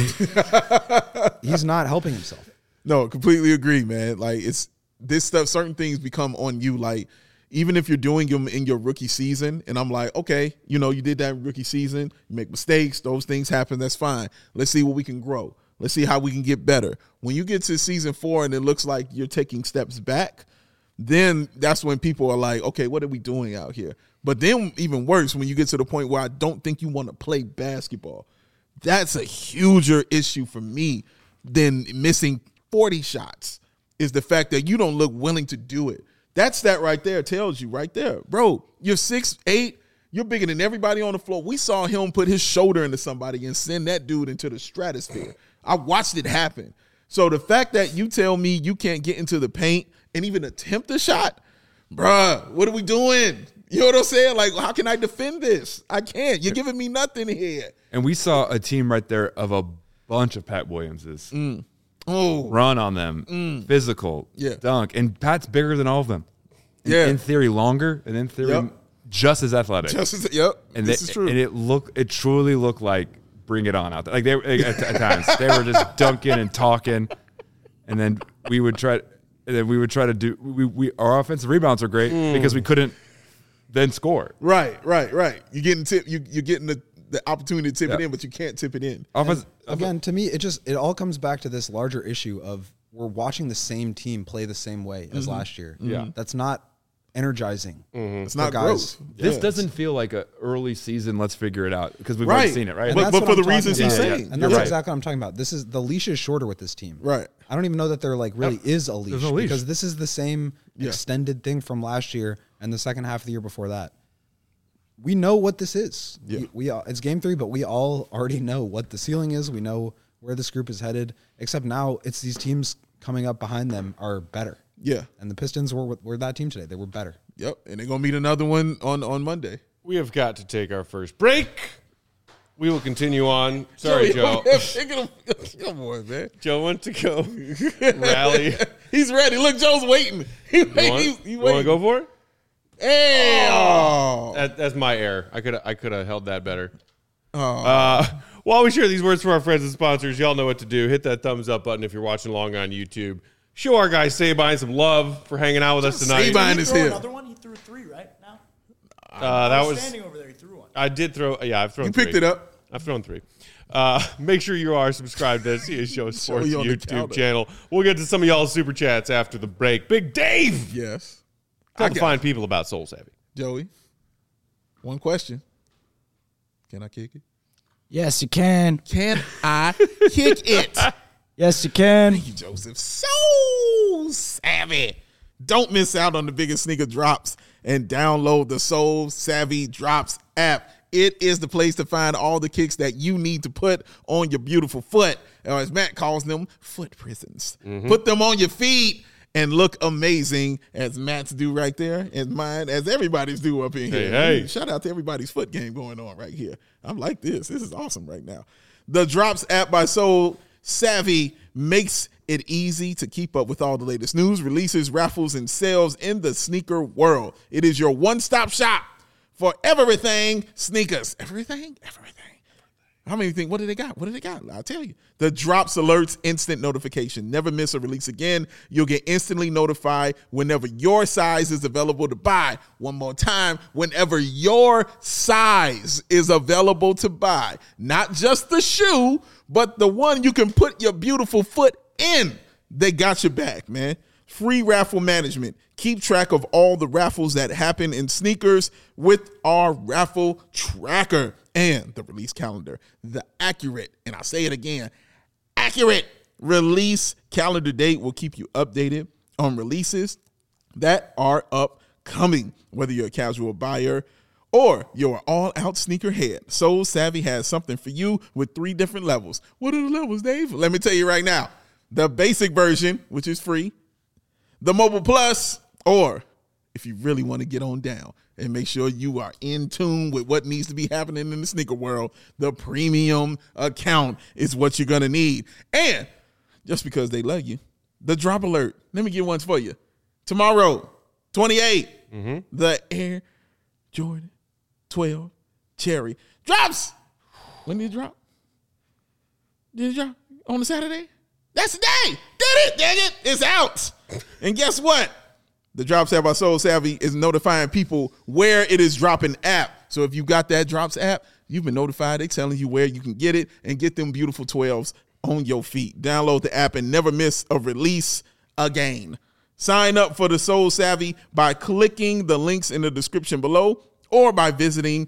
[SPEAKER 5] he's not helping himself.
[SPEAKER 2] No, completely agree, man. Like, it's this stuff, certain things become on you. Like, even if you're doing them in your rookie season, and I'm like, okay, you know, you did that in rookie season, you make mistakes, those things happen, that's fine. Let's see what we can grow. Let's see how we can get better. When you get to season 4 and it looks like you're taking steps back, then that's when people are like, okay, what are we doing out here? But then even worse, when you get to the point where I don't think you want to play basketball, that's a huger issue for me than missing 40 shots, is the fact that you don't look willing to do it. That stat right there tells you right there, bro, you're 6'8", you're bigger than everybody on the floor. We saw him put his shoulder into somebody and send that dude into the stratosphere. I watched it happen. So the fact that you tell me you can't get into the paint and even attempt a shot, bruh, what are we doing? You know what I'm saying? Like, how can I defend this? I can't. You're giving me nothing here.
[SPEAKER 4] And we saw a team right there of a bunch of Pat Williamses.
[SPEAKER 2] Oh,
[SPEAKER 4] Run on them, physical,
[SPEAKER 2] Yeah.
[SPEAKER 4] dunk. And Pat's bigger than all of them.
[SPEAKER 2] Yeah.
[SPEAKER 4] In theory, longer, and in theory,
[SPEAKER 2] Yep.
[SPEAKER 4] just as athletic.
[SPEAKER 2] yep.
[SPEAKER 4] And
[SPEAKER 2] This is true.
[SPEAKER 4] And it truly looked like bring it on out there. Like they at times they were just dunking and talking, and then we would try to do. We our offensive rebounds are great because we couldn't then score.
[SPEAKER 2] Right. You're getting you're getting the opportunity to tip it in, but you can't tip it in.
[SPEAKER 5] Again, to me, it all comes back to this larger issue of we're watching the same team play the same way as last year.
[SPEAKER 4] Yeah.
[SPEAKER 5] That's not energizing.
[SPEAKER 2] It's not
[SPEAKER 5] guys.
[SPEAKER 2] growth.
[SPEAKER 4] This
[SPEAKER 2] Yeah.
[SPEAKER 4] doesn't feel like a early season. Let's figure it out because we've already
[SPEAKER 2] Right.
[SPEAKER 4] seen it, right?
[SPEAKER 5] And
[SPEAKER 2] But
[SPEAKER 5] that's what
[SPEAKER 2] for
[SPEAKER 5] I'm
[SPEAKER 2] the
[SPEAKER 5] talking
[SPEAKER 2] reasons he's
[SPEAKER 5] about.
[SPEAKER 2] saying.
[SPEAKER 5] And
[SPEAKER 2] You're
[SPEAKER 5] that's
[SPEAKER 2] right.
[SPEAKER 5] exactly what I'm talking about. This is the leash is shorter with this team.
[SPEAKER 2] Right.
[SPEAKER 5] I don't even know that there like really is a leash,
[SPEAKER 4] no leash.
[SPEAKER 5] because this is the same extended thing from last year and the second half of the year before that. We know what this is.
[SPEAKER 2] Yeah.
[SPEAKER 5] It's game 3, but we all already know what the ceiling is. We know where this group is headed. Except now it's these teams coming up behind them are better.
[SPEAKER 2] Yeah.
[SPEAKER 5] And the Pistons were that team today. They were better.
[SPEAKER 2] Yep. And they're gonna meet another one on Monday.
[SPEAKER 1] We have got to take our first break. We will continue on. Sorry, Joe.
[SPEAKER 2] Come on, man.
[SPEAKER 1] Joe went to go rally.
[SPEAKER 2] He's ready. Look, Joe's waiting. He
[SPEAKER 1] You want to go for it?
[SPEAKER 2] Hey, oh.
[SPEAKER 1] That's my error. I could have held that better. While we share these words from our friends and sponsors, y'all know what to do. Hit that thumbs up button if you're watching along on YouTube. Show our guy Sabine some love for hanging out with us tonight.
[SPEAKER 2] Sabine
[SPEAKER 3] He
[SPEAKER 2] is
[SPEAKER 3] threw
[SPEAKER 2] here.
[SPEAKER 3] another one. He threw 3 right now.
[SPEAKER 1] That was
[SPEAKER 3] Standing over there. He threw one.
[SPEAKER 1] I did throw. Yeah, I've thrown.
[SPEAKER 2] You picked
[SPEAKER 1] 3.
[SPEAKER 2] it up.
[SPEAKER 1] I've thrown 3. Make sure you are subscribed to CS Show Sports
[SPEAKER 2] you on the
[SPEAKER 1] YouTube
[SPEAKER 2] counter.
[SPEAKER 1] channel. We'll get to some of y'all's super chats after the break. Big Dave,
[SPEAKER 2] Yes.
[SPEAKER 1] tell
[SPEAKER 2] I
[SPEAKER 1] the
[SPEAKER 2] got
[SPEAKER 1] fine people about Soul Savvy.
[SPEAKER 2] Joey. One question. Can I kick it?
[SPEAKER 3] Yes, you can.
[SPEAKER 2] Can I kick it?
[SPEAKER 3] Yes, you can.
[SPEAKER 2] Thank you, Joseph. So savvy. Don't miss out on the biggest sneaker drops and download the Soul Savvy Drops app. It is the place to find all the kicks that you need to put on your beautiful foot, or as Matt calls them, foot prisons. Put them on your feet and look amazing, as Matt's do right there, and mine, as everybody's do up in here.
[SPEAKER 1] Hey.
[SPEAKER 2] Shout out to everybody's foot game going on right here. I'm like this. This is awesome right now. The Drops app by Soul Savvy makes it easy to keep up with all the latest news, releases, raffles, and sales in the sneaker world. It is your one-stop shop for everything sneakers. Everything? How many think? What do they got? I'll tell you. The Drops alerts, instant notification. Never miss a release again. You'll get instantly notified whenever your size is available to buy. One more time, whenever your size is available to buy. Not just the shoe, but the one you can put your beautiful foot in. They got your back, man. Free raffle management. Keep track of all the raffles that happen in sneakers with our raffle tracker and the release calendar. The accurate, and I'll say it again, accurate release calendar date will keep you updated on releases that are upcoming. Whether you're a casual buyer or you're an all-out sneakerhead, Soul Savvy has something for you with 3 different levels. What are the levels, Dave? Let me tell you right now. The basic version, which is free, the Mobile Plus, or if you really want to get on down and make sure you are in tune with what needs to be happening in the sneaker world, the premium account is what you're going to need. And just because they love you, the drop alert. Let me get one for you. Tomorrow, 28, the Air Jordan 12 Cherry drops. When did it drop? Did it drop on the Saturday? That's the day. Did it? Dang it. It's out. And guess what? The Drops app by Soul Savvy is notifying people where it is dropping app. So if you got that Drops app, you've been notified. They're telling you where you can get it and get them beautiful 12s on your feet. Download the app and never miss a release again. Sign up for the Soul Savvy by clicking the links in the description below or by visiting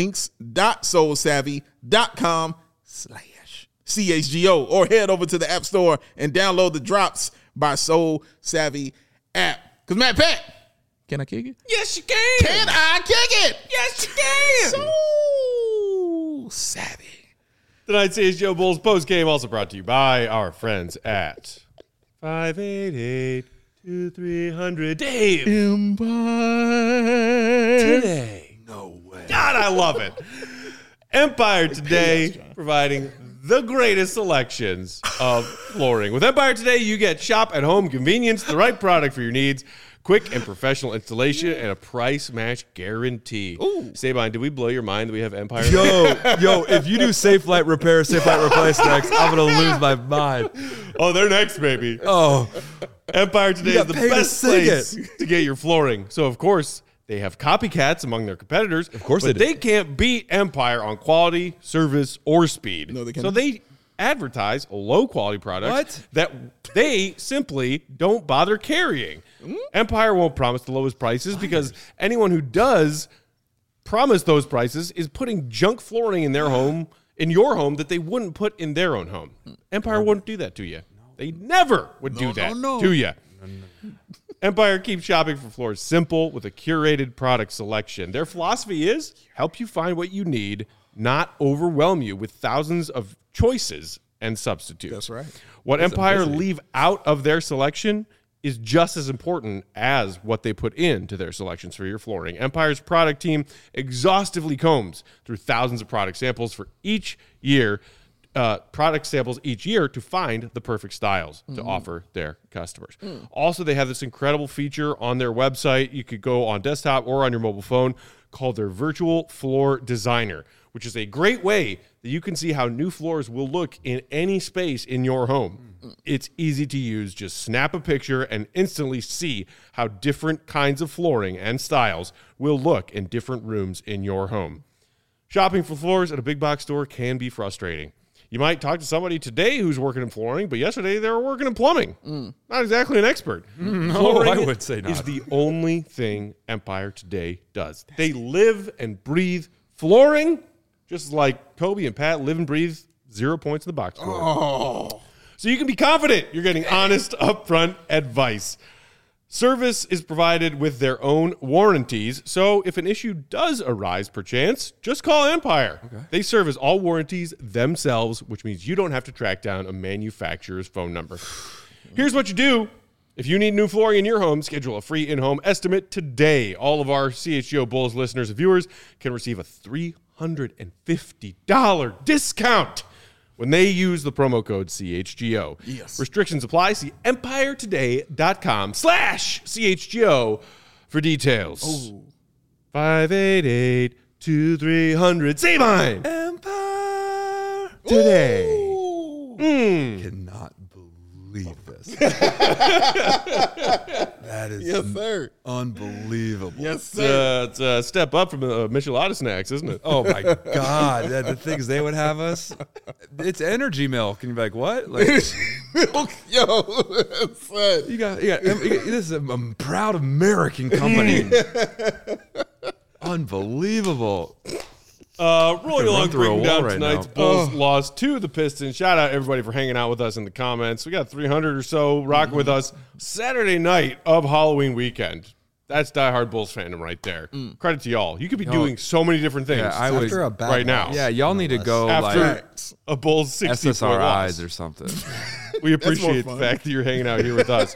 [SPEAKER 2] links.soulsavvy.com/CHGO or head over to the App Store and download the Drops by Soul Savvy app. Because Matt Pat, can I kick it?
[SPEAKER 1] Yes, you can.
[SPEAKER 2] Can I kick it?
[SPEAKER 1] Yes, you can.
[SPEAKER 2] Soul Savvy.
[SPEAKER 1] Tonight's CS Joe Bulls post game also brought to you by our friends at 588-2300. Dave.
[SPEAKER 2] Empire.
[SPEAKER 1] Today. No way. God, I love it. Empire Today providing the greatest selections of flooring. With Empire Today, you get shop at home convenience, the right product for your needs, quick and professional installation, and a price match guarantee. Ooh. Sabine, did we blow your mind that we have Empire?
[SPEAKER 4] Yo, if you do Safe Light Repair, Safe Light Replace next, I'm going to lose my mind.
[SPEAKER 1] Oh, they're next, baby.
[SPEAKER 4] Oh,
[SPEAKER 1] Empire Today
[SPEAKER 4] You
[SPEAKER 1] is
[SPEAKER 4] got
[SPEAKER 1] the
[SPEAKER 4] paid to
[SPEAKER 1] best
[SPEAKER 4] sing
[SPEAKER 1] place to get your flooring. So, of course, they have copycats among their competitors. Of
[SPEAKER 4] course
[SPEAKER 1] but
[SPEAKER 4] they do.
[SPEAKER 1] they can't beat Empire on quality, service, or speed.
[SPEAKER 2] No, they can't.
[SPEAKER 1] So they advertise low-quality products that they simply don't bother carrying. Empire won't promise the lowest prices because anyone who does promise those prices is putting junk flooring in their home, in your home, that they wouldn't put in their own home. Empire wouldn't do that to you. They never would do that to you. Empire keeps shopping for floors simple with a curated product selection. Their philosophy is help you find what you need, not overwhelm you with thousands of choices and substitutes.
[SPEAKER 2] That's right.
[SPEAKER 1] What Empire leave out of their selection is just as important as what they put into their selections for your flooring. Empire's product team exhaustively combs through thousands of product samples for each year, to find the perfect styles to offer their customers. Also, they have this incredible feature on their website. You could go on desktop or on your mobile phone called their Virtual Floor Designer, which is a great way that you can see how new floors will look in any space in your home. It's easy to use. Just snap a picture and instantly see how different kinds of flooring and styles will look in different rooms in your home. Shopping for floors at a big box store can be frustrating. You might talk to somebody today who's working in flooring, but yesterday they were working in plumbing. Not exactly an expert. Flooring
[SPEAKER 4] I would say not.
[SPEAKER 1] is the only thing Empire today does. They live and breathe flooring, just like Kobe and Pat live and breathe 0 points in the box score.
[SPEAKER 2] Oh,
[SPEAKER 1] So you can be confident you're getting honest, upfront advice. Service is provided with their own warranties, so if an issue does arise perchance, just call Empire. Okay. They service all warranties themselves, which means you don't have to track down a manufacturer's phone number. Here's what you do. If you need new flooring in your home, schedule a free in-home estimate today. All of our CHGO Bulls listeners and viewers can receive a $350 discount when they use the promo code CHGO.
[SPEAKER 2] Yes.
[SPEAKER 1] Restrictions apply. See empiretoday.com/CHGO for details. 588-2300. Say mine.
[SPEAKER 4] Empire
[SPEAKER 1] Today.
[SPEAKER 4] Cannot believe this. That is
[SPEAKER 2] yes, sir.
[SPEAKER 4] unbelievable.
[SPEAKER 2] Yes, sir.
[SPEAKER 1] It's a step up from Michelada snacks, isn't it?
[SPEAKER 4] Oh my God! The things they would have us. It's energy milk, and you're like, what? Like,
[SPEAKER 2] Milk, yo, son.
[SPEAKER 4] you got. This is a proud American company. Unbelievable.
[SPEAKER 1] Rolling along,
[SPEAKER 4] through a
[SPEAKER 1] breaking
[SPEAKER 4] wall
[SPEAKER 1] down
[SPEAKER 4] right
[SPEAKER 1] tonight's
[SPEAKER 4] now.
[SPEAKER 1] Bulls loss to the Pistons. Shout out everybody for hanging out with us in the comments. We got 300 or so rocking with us Saturday night of Halloween weekend. That's diehard Bulls fandom right there. Credit to y'all. You could be doing so many different things
[SPEAKER 4] Yeah, I would.
[SPEAKER 5] After a bad
[SPEAKER 1] right now.
[SPEAKER 5] loss,
[SPEAKER 4] Yeah, y'all need to go
[SPEAKER 1] After
[SPEAKER 4] like
[SPEAKER 1] a Bulls 60-point loss.
[SPEAKER 4] SSRIs or something.
[SPEAKER 1] We appreciate the
[SPEAKER 2] fun.
[SPEAKER 1] fact that you're hanging out here with us.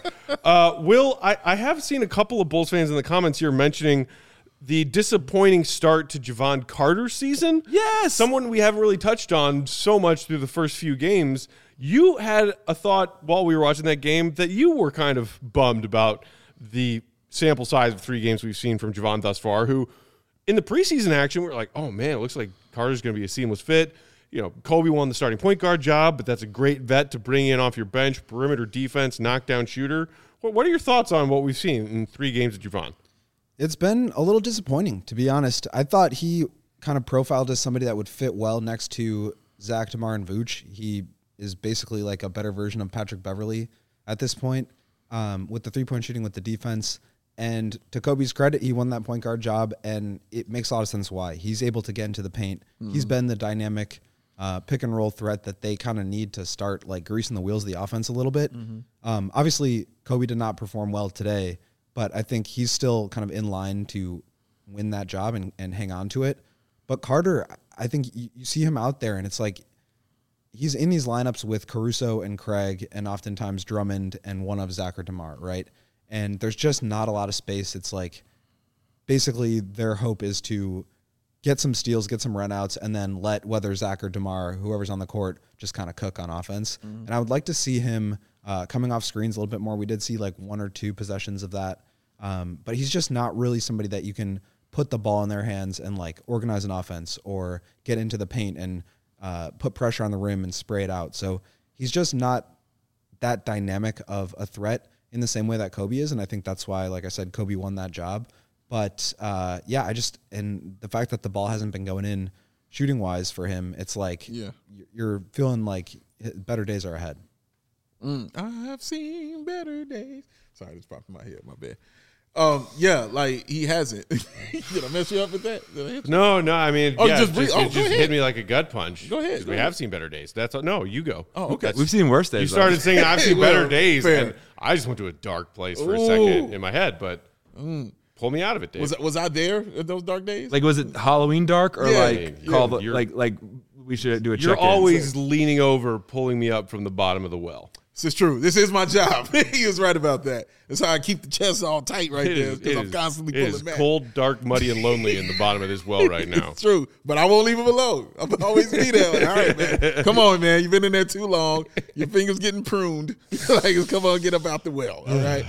[SPEAKER 1] Will, I have seen a couple of Bulls fans in the comments here mentioning the disappointing start to Javon Carter's season.
[SPEAKER 4] Yes.
[SPEAKER 1] Someone we haven't really touched on so much through the first few games. You had a thought while we were watching that game that you were kind of bummed about the sample size of 3 games we've seen from Javon thus far, who in the preseason action, we were like, oh man, it looks like Carter's going to be a seamless fit. You know, Kobe won the starting point guard job, but that's a great vet to bring in off your bench, perimeter defense, knockdown shooter. What are your thoughts on what we've seen in 3 games of Javon?
[SPEAKER 5] It's been a little disappointing, to be honest. I thought he kind of profiled as somebody that would fit well next to Zach, DeMar, and Vooch. He is basically like a better version of Patrick Beverley at this point, with the 3-point shooting, with the defense. And to Kobe's credit, he won that point guard job, and it makes a lot of sense why. He's able to get into the paint. He's been the dynamic pick and roll threat that they kind of need to start like greasing the wheels of the offense a little bit. Obviously, Kobe did not perform well today, but I think he's still kind of in line to win that job and hang on to it. But Carter, I think you see him out there, and it's like he's in these lineups with Caruso and Craig and oftentimes Drummond and one of Zach or DeMar, right? And there's just not a lot of space. It's like basically their hope is to get some steals, get some runouts, and then let whether Zach or DeMar, whoever's on the court, just kind of cook on offense. And I would like to see him coming off screens a little bit more. We did see like 1 or 2 possessions of that. But he's just not really somebody that you can put the ball in their hands and like organize an offense or get into the paint and put pressure on the rim and spray it out. So he's just not that dynamic of a threat in the same way that Kobe is. And I think that's why, like I said, Kobe won that job. But yeah, and the fact that the ball hasn't been going in shooting wise for him, it's like you're feeling like better days are ahead.
[SPEAKER 2] I've seen better days. Sorry, this popped in my head. My bad. Yeah, like he hasn't. Did I mess you up with that? Did I hit you?
[SPEAKER 1] No, I mean,
[SPEAKER 2] Oh,
[SPEAKER 1] yeah,
[SPEAKER 2] just
[SPEAKER 1] it
[SPEAKER 2] breathe.
[SPEAKER 1] just,
[SPEAKER 2] Oh,
[SPEAKER 1] it
[SPEAKER 2] go
[SPEAKER 1] just
[SPEAKER 2] ahead.
[SPEAKER 1] hit me like a gut punch.
[SPEAKER 2] Go ahead,
[SPEAKER 1] 'Cause
[SPEAKER 2] go
[SPEAKER 1] we
[SPEAKER 2] ahead.
[SPEAKER 1] have seen better days. That's all. No, you go.
[SPEAKER 2] Oh, okay.
[SPEAKER 4] We've seen worse days.
[SPEAKER 1] You started saying I've seen
[SPEAKER 2] Well,
[SPEAKER 1] better days,
[SPEAKER 2] fair.
[SPEAKER 1] and I just went to a dark place for a second in my head, but pull me out of it, Dave.
[SPEAKER 2] Was I there in those dark days?
[SPEAKER 4] Like, was it Halloween dark or
[SPEAKER 2] Yeah,
[SPEAKER 4] like
[SPEAKER 1] yeah,
[SPEAKER 4] call the
[SPEAKER 1] you're-
[SPEAKER 4] like we should do a
[SPEAKER 1] You're
[SPEAKER 4] check-in?
[SPEAKER 1] always leaning over, pulling me up from the bottom of the well.
[SPEAKER 2] This is true. This is my job. He was right about that. That's how I keep the chest all tight right there because I'm constantly
[SPEAKER 1] it
[SPEAKER 2] pulling
[SPEAKER 1] is
[SPEAKER 2] back.
[SPEAKER 1] cold, dark, muddy, and lonely in the bottom of this well right now.
[SPEAKER 2] It's true, but I won't leave him alone. I'm always be there. Like, all right, man. Come on, man. You've been in there too long. Your fingers getting pruned. Like, come on, get up out the well. All right.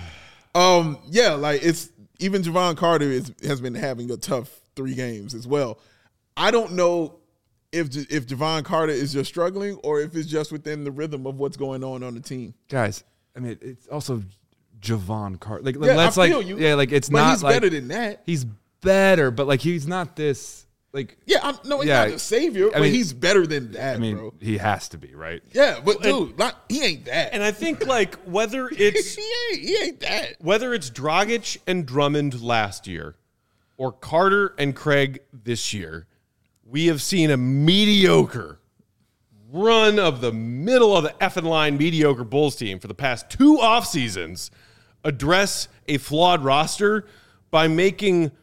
[SPEAKER 2] Yeah, like it's even Javon Carter has been having a tough 3 games as well. I don't know if Javon Carter is just struggling or if it's just within the rhythm of what's going on the team.
[SPEAKER 4] Guys, I mean, it's also Javon Carter. Like,
[SPEAKER 2] Yeah,
[SPEAKER 4] let's
[SPEAKER 2] I feel you.
[SPEAKER 4] yeah, like it's
[SPEAKER 2] But
[SPEAKER 4] not
[SPEAKER 2] he's
[SPEAKER 4] like
[SPEAKER 2] better than that.
[SPEAKER 4] he's better, but like he's not this. Like,
[SPEAKER 2] Yeah, he's
[SPEAKER 4] Yeah,
[SPEAKER 2] not the savior,
[SPEAKER 4] I
[SPEAKER 2] but
[SPEAKER 4] mean-
[SPEAKER 2] he's better than that,
[SPEAKER 4] I mean,
[SPEAKER 2] bro.
[SPEAKER 4] he has to be, right?
[SPEAKER 2] Yeah, but dude, he ain't that.
[SPEAKER 1] And I think like whether it's
[SPEAKER 2] he ain't that.
[SPEAKER 1] whether it's Dragic and Drummond last year or Carter and Craig this year, we have seen a mediocre run of the middle of the effing line mediocre Bulls team for the past 2 off seasons address a flawed roster by making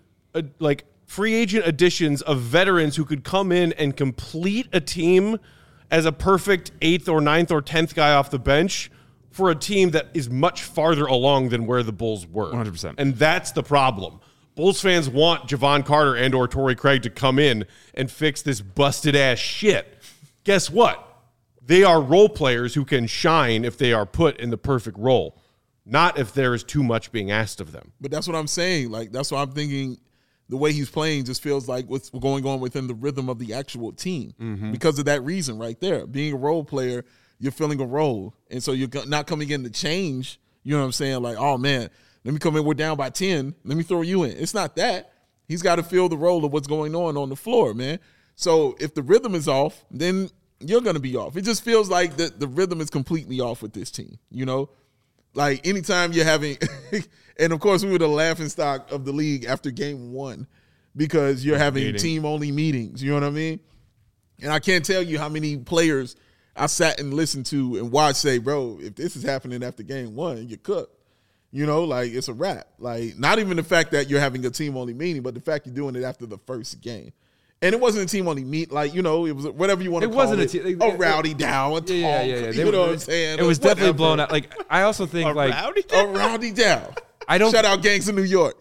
[SPEAKER 1] free agent additions of veterans who could come in and complete a team as a perfect 8th or 9th or 10th guy off the bench for a team that is much farther along than where the Bulls were.
[SPEAKER 4] 100%.
[SPEAKER 1] And that's the problem. Bulls fans want Javon Carter and or Torrey Craig to come in and fix this busted ass shit. Guess what? They are role players who can shine if they are put in the perfect role, not if there is too much being asked of them.
[SPEAKER 2] But that's what I'm saying. Like, that's what I'm thinking. The way he's playing just feels like what's going on within the rhythm of the actual team because of that reason right there. Being a role player, you're filling a role. And so you're not coming in to change. You know what I'm saying? Like, oh, man, let me come in. We're down by 10. Let me throw you in. It's not that. He's got to fill the role of what's going on the floor, man. So if the rhythm is off, then you're going to be off. It just feels like the rhythm is completely off with this team, you know? Like, anytime you're having – and, of course, we were the laughingstock of the league after game 1 because you're having team-only meetings. You know what I mean? And I can't tell you how many players I sat and listened to and watched say, bro, if this is happening after game 1, you're cooked. You know, like, it's a wrap. Like, not even the fact that you're having a team-only meeting, but the fact you're doing it after the first game. And it wasn't a team-only meet, like, you know, it was whatever you want to call it.
[SPEAKER 4] A
[SPEAKER 2] rowdy down, a talk.
[SPEAKER 4] Yeah.
[SPEAKER 2] You know what I'm saying?
[SPEAKER 4] It was definitely
[SPEAKER 2] Whatever.
[SPEAKER 4] blown out. Like, I also think, like,
[SPEAKER 2] A rowdy down.
[SPEAKER 4] I don't.
[SPEAKER 2] Shout out Gangs of New York.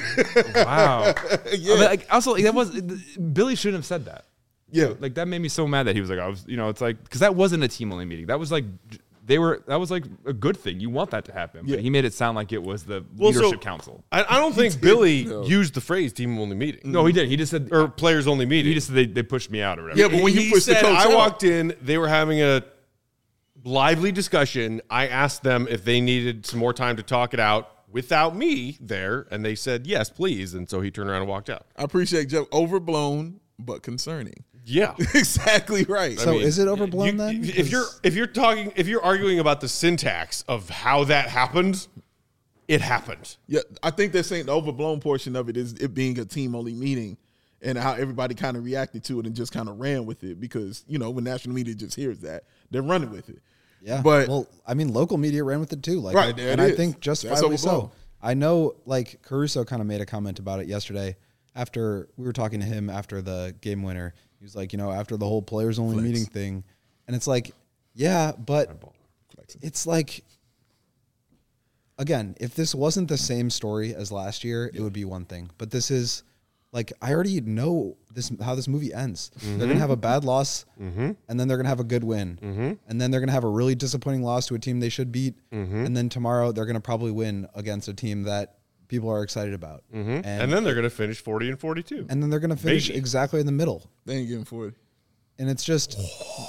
[SPEAKER 4] Wow.
[SPEAKER 2] Yeah.
[SPEAKER 4] But, like, also, like, that was Billy shouldn't have said that.
[SPEAKER 2] Yeah.
[SPEAKER 4] Like, that made me so mad that he was like, it's like, because that wasn't a team only meeting. That was like, that was like a good thing. You want that to happen. But he made it sound like it was the leadership council.
[SPEAKER 1] I don't think Billy used the phrase team-only meeting.
[SPEAKER 4] No, he did. He just said,
[SPEAKER 1] Or players-only meeting.
[SPEAKER 4] he just said they pushed me out or whatever.
[SPEAKER 2] Yeah, but when you
[SPEAKER 1] He
[SPEAKER 2] push the
[SPEAKER 1] said,
[SPEAKER 2] coach
[SPEAKER 1] I
[SPEAKER 2] out,
[SPEAKER 1] walked in, they were having a lively discussion. I asked them if they needed some more time to talk it out without me there, and they said, yes, please. And so he turned around and walked out.
[SPEAKER 2] I appreciate Jeff. Overblown, but concerning.
[SPEAKER 1] Yeah.
[SPEAKER 2] Exactly right.
[SPEAKER 3] So is it overblown then?
[SPEAKER 1] If you're arguing about the syntax of how that happened, it happened.
[SPEAKER 2] Yeah, I think they're saying the overblown portion of it is it being a team-only meeting and how everybody kind of reacted to it and just kind of ran with it because, you know, when national media just hears that, they're running with it.
[SPEAKER 5] Yeah,
[SPEAKER 2] But
[SPEAKER 5] well, I mean, local media ran with it too. Like,
[SPEAKER 2] Right, there
[SPEAKER 5] and
[SPEAKER 2] it
[SPEAKER 5] I
[SPEAKER 2] is.
[SPEAKER 5] think
[SPEAKER 2] That's
[SPEAKER 5] justifiably so.
[SPEAKER 2] overblown.
[SPEAKER 5] I know, like Caruso kind of made a comment about it yesterday after we were talking to him after the game winner. He was like, you know, after the whole players only meeting thing, and it's like, yeah, but it's like, again, if this wasn't the same story as last year, it would be one thing. But this is like, I already know how this movie ends. They're gonna have a bad loss, and then they're gonna have a good win, and then they're gonna have a really disappointing loss to a team they should beat, and then tomorrow they're gonna probably win against a team that people are excited about,
[SPEAKER 1] And then they're going to finish 40 and 42.
[SPEAKER 5] and then they're gonna finish
[SPEAKER 1] Maybe.
[SPEAKER 5] exactly in the middle,
[SPEAKER 2] they ain't getting 40.
[SPEAKER 5] and it's just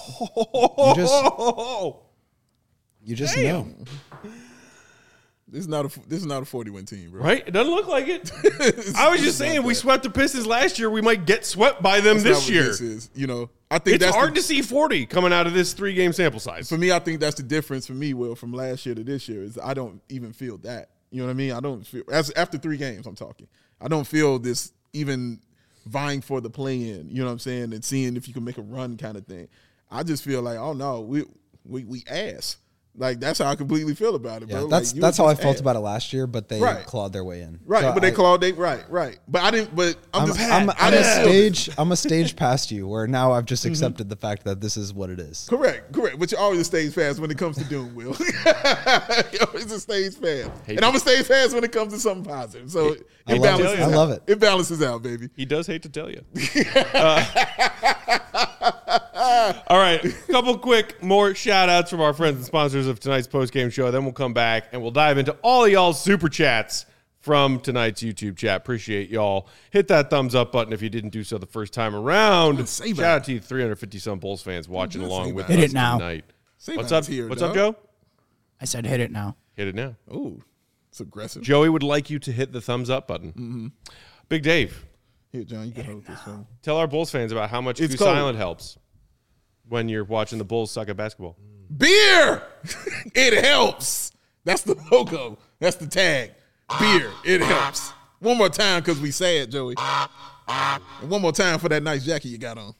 [SPEAKER 5] you just know.
[SPEAKER 2] This is not a 40-win team, bro.
[SPEAKER 1] Right? It doesn't look like it. I was just saying, we swept the Pistons last year. We might get swept by them
[SPEAKER 2] That's not
[SPEAKER 1] this
[SPEAKER 2] what
[SPEAKER 1] year.
[SPEAKER 2] This is, you know, I think
[SPEAKER 1] It's
[SPEAKER 2] that's
[SPEAKER 1] hard to see 40 coming out of this 3-game sample size.
[SPEAKER 2] For me, I think that's the difference for me, Will, from last year to this year is I don't even feel that. You know what I mean? I don't feel after 3 games. I'm talking. I don't feel this even vying for the play-in. You know what I'm saying? And seeing if you can make a run kind of thing. I just feel like, oh no, we ass. Like that's how I completely feel about it,
[SPEAKER 5] Yeah,
[SPEAKER 2] bro.
[SPEAKER 5] that's
[SPEAKER 2] Like,
[SPEAKER 5] that's how I
[SPEAKER 2] just
[SPEAKER 5] felt
[SPEAKER 2] ass.
[SPEAKER 5] about it last year, but they
[SPEAKER 2] Right.
[SPEAKER 5] clawed their way in.
[SPEAKER 2] Right,
[SPEAKER 5] So
[SPEAKER 2] but they
[SPEAKER 5] I-
[SPEAKER 2] clawed. Right. But I didn't. But I'm
[SPEAKER 5] I'm a stage. I'm a stage past you, where now I've just accepted the fact that this is what it is.
[SPEAKER 2] Correct. But you're always a stage fast when it comes to doing Will. You're always a stage fan. And I'm a stage fast when it comes to something positive. So
[SPEAKER 5] I
[SPEAKER 2] it
[SPEAKER 5] love it.
[SPEAKER 2] balances
[SPEAKER 5] I
[SPEAKER 2] out.
[SPEAKER 5] love it.
[SPEAKER 2] It balances out, baby.
[SPEAKER 1] He does hate to tell you. All right, a couple quick more shout outs from our friends and sponsors of tonight's post-game show. Then we'll come back and we'll dive into all of y'all's super chats from tonight's YouTube chat. Appreciate y'all. Hit that thumbs up button if you didn't do so the first time around.
[SPEAKER 2] Say
[SPEAKER 1] Shout out to you 350-some Bulls fans watching
[SPEAKER 2] Just
[SPEAKER 1] along
[SPEAKER 2] say
[SPEAKER 1] with
[SPEAKER 2] that.
[SPEAKER 1] us
[SPEAKER 3] Hit it now.
[SPEAKER 1] tonight.
[SPEAKER 2] Say
[SPEAKER 1] What's
[SPEAKER 2] that's
[SPEAKER 1] up?
[SPEAKER 2] here,
[SPEAKER 1] What's
[SPEAKER 2] dog.
[SPEAKER 1] up, Joe?
[SPEAKER 3] I said hit it now.
[SPEAKER 1] Hit it now.
[SPEAKER 2] Ooh, it's aggressive.
[SPEAKER 1] Joey would like you to hit the thumbs up button.
[SPEAKER 2] Mm-hmm.
[SPEAKER 1] Big Dave,
[SPEAKER 2] Here, John, you can hold this one.
[SPEAKER 1] tell our Bulls fans about how much
[SPEAKER 2] It's
[SPEAKER 1] Goose
[SPEAKER 2] cold.
[SPEAKER 1] Island helps when you're watching the Bulls suck at basketball.
[SPEAKER 2] Beer! It helps. That's the logo. That's the tag. Beer. It helps. One more time because we sad, Joey. And one more time for that nice jacket you got on.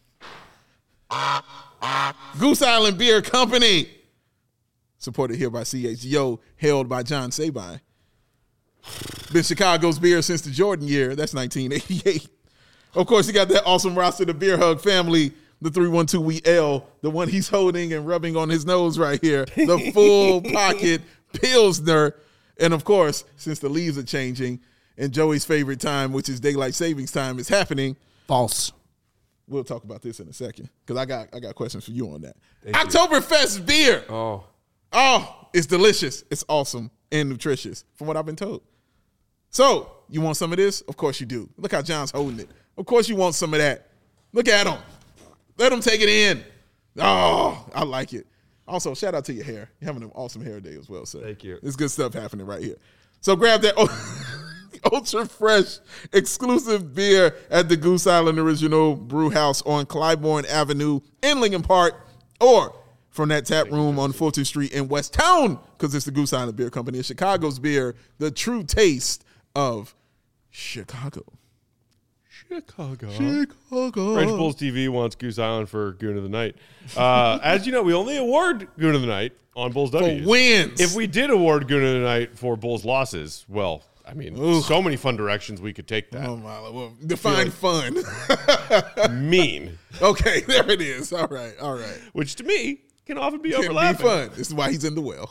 [SPEAKER 2] Goose Island Beer Company. Supported here by CHGO, held by John Sabine. Been Chicago's beer since the Jordan year. That's 1988. Of course, you got that awesome roster, the Beer Hug family, the 312 We L, the one he's holding and rubbing on his nose right here, the full pocket Pilsner. And of course, since the leaves are changing and Joey's favorite time, which is daylight savings time, is happening,
[SPEAKER 3] False.
[SPEAKER 2] we'll talk about this in a second because I got questions for you on that. Oktoberfest beer. Oh, it's delicious. It's awesome and nutritious from what I've been told. So, you want some of this? Of course you do. Look how John's holding it. Of course you want some of that. Look at him. Let him take it in. Oh, I like it. Also, shout out to your hair. You're having an awesome hair day as well, sir.
[SPEAKER 4] Thank you.
[SPEAKER 2] There's good stuff happening right here. So grab that ultra fresh exclusive beer at the Goose Island Original Brew House on Clybourne Avenue in Lincoln Park, or from that tap room on Fulton Street in West Town, because it's the Goose Island Beer Company. It's Chicago's beer, the true taste of Chicago.
[SPEAKER 1] Chicago.
[SPEAKER 2] Chicago.
[SPEAKER 1] French Bulls TV wants Goose Island for Goon of the Night. As you know, we only award Goon of the Night on Bulls W's.
[SPEAKER 2] wins.
[SPEAKER 1] If we did award Goon of the Night for Bulls losses, well, I mean, so many fun directions we could take that.
[SPEAKER 2] Oh, my Lord. Well, define fun.
[SPEAKER 1] Mean,
[SPEAKER 2] Okay, there it is. All right.
[SPEAKER 1] which to me can often be
[SPEAKER 2] Can be
[SPEAKER 1] overlapping.
[SPEAKER 2] fun. This is why he's in the well.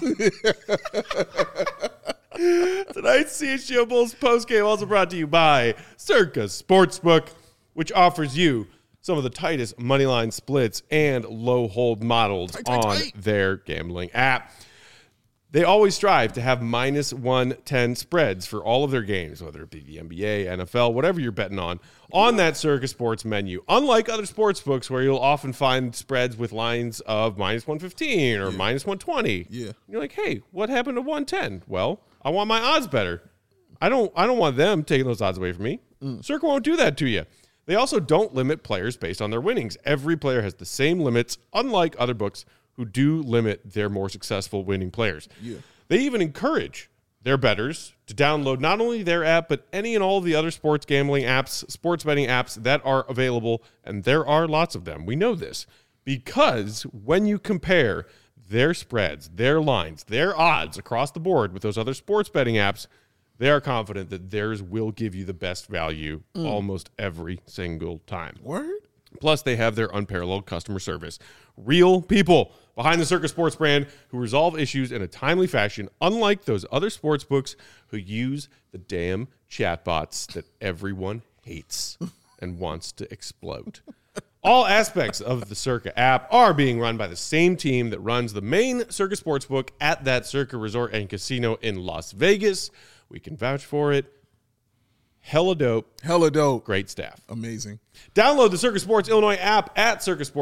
[SPEAKER 1] Tonight's CHGO Bulls postgame also brought to you by Circa Sportsbook, which offers you some of the tightest moneyline splits and low hold models on their gambling app. They always strive to have minus 110 spreads for all of their games, whether it be the NBA, NFL, whatever you're betting on that Circa Sports menu. Unlike other sports books where you'll often find spreads with lines of minus 115 or minus 120.
[SPEAKER 2] Yeah.
[SPEAKER 1] You're like, hey, what happened to 110? Well, I want my odds better. I don't want them taking those odds away from me. Circa won't do that to you. They also don't limit players based on their winnings. Every player has the same limits, unlike other books who do limit their more successful winning players.
[SPEAKER 2] Yeah.
[SPEAKER 1] They even encourage their bettors to download not only their app, but any and all of the other sports gambling apps, sports betting apps that are available, and there are lots of them. We know this because when you compare their spreads, their lines, their odds across the board with those other sports betting apps, they are confident that theirs will give you the best value almost every single time.
[SPEAKER 2] Word?
[SPEAKER 1] Plus, they have their unparalleled customer service. Real people behind the Circa Sports brand who resolve issues in a timely fashion, unlike those other sports books who use the damn chatbots that everyone hates and wants to explode. All aspects of the Circa app are being run by the same team that runs the main Circa Sportsbook at that Circa Resort and Casino in Las Vegas. We can vouch for it. Hella dope.
[SPEAKER 2] Hella dope.
[SPEAKER 1] Great staff.
[SPEAKER 2] Amazing.
[SPEAKER 1] Download the Circa Sports Illinois app at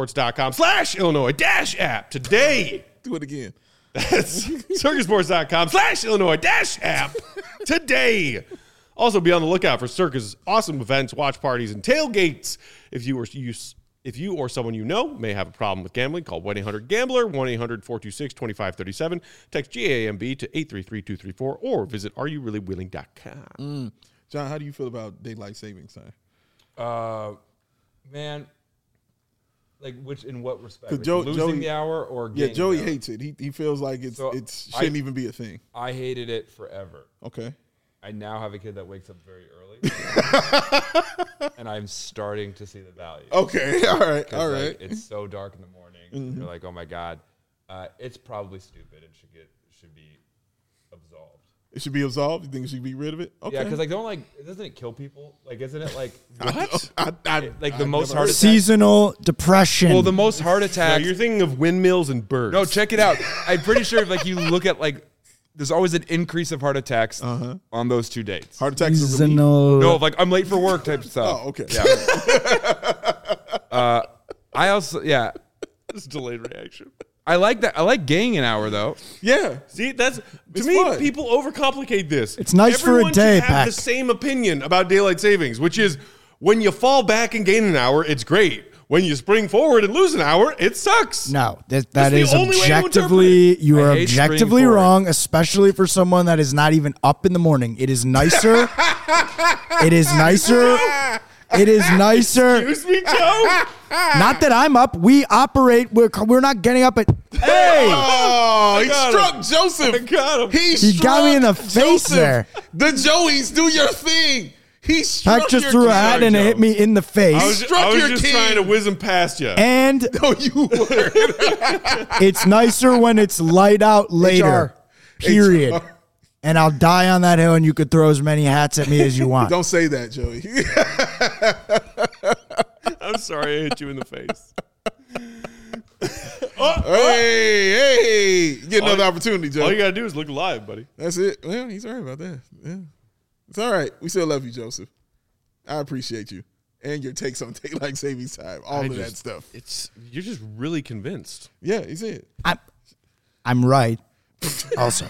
[SPEAKER 1] circasports.com/Illinois-app today.
[SPEAKER 2] Do it again.
[SPEAKER 1] That's circasports.com/Illinois-app today. Also, be on the lookout for Circa's awesome events, watch parties, and tailgates. If you or someone you know may have a problem with gambling, call 1-800-GAMBLER, 1-800-426-2537. Text GAMB to 833-234 or visit areyourreallywilling.com.
[SPEAKER 2] John, how do you feel about daylight savings time?
[SPEAKER 4] Man, like in what respect?
[SPEAKER 2] 'Cause
[SPEAKER 4] Like
[SPEAKER 2] Joey-
[SPEAKER 4] losing the hour or
[SPEAKER 2] Yeah,
[SPEAKER 4] gaining
[SPEAKER 2] Joey
[SPEAKER 4] the hour?
[SPEAKER 2] hates it. He feels like it shouldn't even be a thing.
[SPEAKER 4] I hated it forever.
[SPEAKER 2] Okay.
[SPEAKER 4] I now have a kid that wakes up very early, and I'm starting to see the value.
[SPEAKER 2] Okay. All right.
[SPEAKER 4] 'Cause,
[SPEAKER 2] All
[SPEAKER 4] like,
[SPEAKER 2] right.
[SPEAKER 4] it's so dark in the morning. And you're like, oh my god, it's probably stupid and should be absolved.
[SPEAKER 2] It should be absolved. You think it should be rid of it? Okay.
[SPEAKER 4] Yeah, because doesn't it kill people? Like, isn't it like
[SPEAKER 1] What?
[SPEAKER 4] like the most
[SPEAKER 2] never
[SPEAKER 4] heart
[SPEAKER 2] heard-
[SPEAKER 4] attack?
[SPEAKER 3] Seasonal depression.
[SPEAKER 4] Well, the most heart
[SPEAKER 1] No,
[SPEAKER 4] attacks.
[SPEAKER 1] you're thinking of windmills and birds.
[SPEAKER 4] No, check it out. I'm pretty sure if like you look at like there's always an increase of heart attacks on those 2 dates.
[SPEAKER 2] Heart attacks are relief.
[SPEAKER 3] Seasonal.
[SPEAKER 4] No, like I'm late for work type stuff.
[SPEAKER 2] Oh, okay.
[SPEAKER 4] I also,
[SPEAKER 1] It's delayed reaction.
[SPEAKER 4] I like that. I like gaining an hour though.
[SPEAKER 2] Yeah.
[SPEAKER 1] See, that's to
[SPEAKER 2] It's
[SPEAKER 1] me.
[SPEAKER 2] fun.
[SPEAKER 1] People overcomplicate this.
[SPEAKER 3] It's nice for a
[SPEAKER 1] Everyone
[SPEAKER 3] day,
[SPEAKER 1] should have
[SPEAKER 3] Pac.
[SPEAKER 1] the same opinion about daylight savings, which is when you fall back and gain an hour, it's great. When you spring forward and lose an hour, it sucks.
[SPEAKER 3] No, that
[SPEAKER 1] That's the
[SPEAKER 3] is
[SPEAKER 1] only way to interpret
[SPEAKER 3] objectively, you
[SPEAKER 4] I
[SPEAKER 3] are
[SPEAKER 4] hate spring
[SPEAKER 3] objectively
[SPEAKER 4] forward.
[SPEAKER 3] wrong, especially for someone that is not even up in the morning. It is nicer. It is nicer. It is nicer.
[SPEAKER 1] Excuse me, Joe.
[SPEAKER 3] Not that I'm up. We operate. We're not getting up at. Hey,
[SPEAKER 2] Oh, he
[SPEAKER 1] got
[SPEAKER 2] struck
[SPEAKER 1] him.
[SPEAKER 2] Joseph.
[SPEAKER 1] I got him.
[SPEAKER 3] He got me in the face there.
[SPEAKER 2] The Joeys, do your thing. He struck
[SPEAKER 3] Pac just
[SPEAKER 2] your
[SPEAKER 3] threw a
[SPEAKER 2] king.
[SPEAKER 3] hat and it hit me in the face.
[SPEAKER 1] I was
[SPEAKER 2] struck your
[SPEAKER 1] just
[SPEAKER 2] king.
[SPEAKER 1] trying to whiz him past you.
[SPEAKER 3] And
[SPEAKER 2] No, you were.
[SPEAKER 3] it's nicer when it's light out later. Period. And I'll die on that hill, and you could throw as many hats at me as you want.
[SPEAKER 2] Don't say that, Joey.
[SPEAKER 1] I'm sorry I hit you in the face.
[SPEAKER 2] Hey, get another opportunity,
[SPEAKER 1] All you
[SPEAKER 2] Joe.
[SPEAKER 1] gotta do is look alive, buddy.
[SPEAKER 2] That's it. Well, he's right about that. Yeah. It's all right. We still love you, Joseph. I appreciate you. And your takes on daylight savings time. All of that stuff.
[SPEAKER 1] You're just really convinced.
[SPEAKER 2] Yeah, he said.
[SPEAKER 3] I'm right. Also,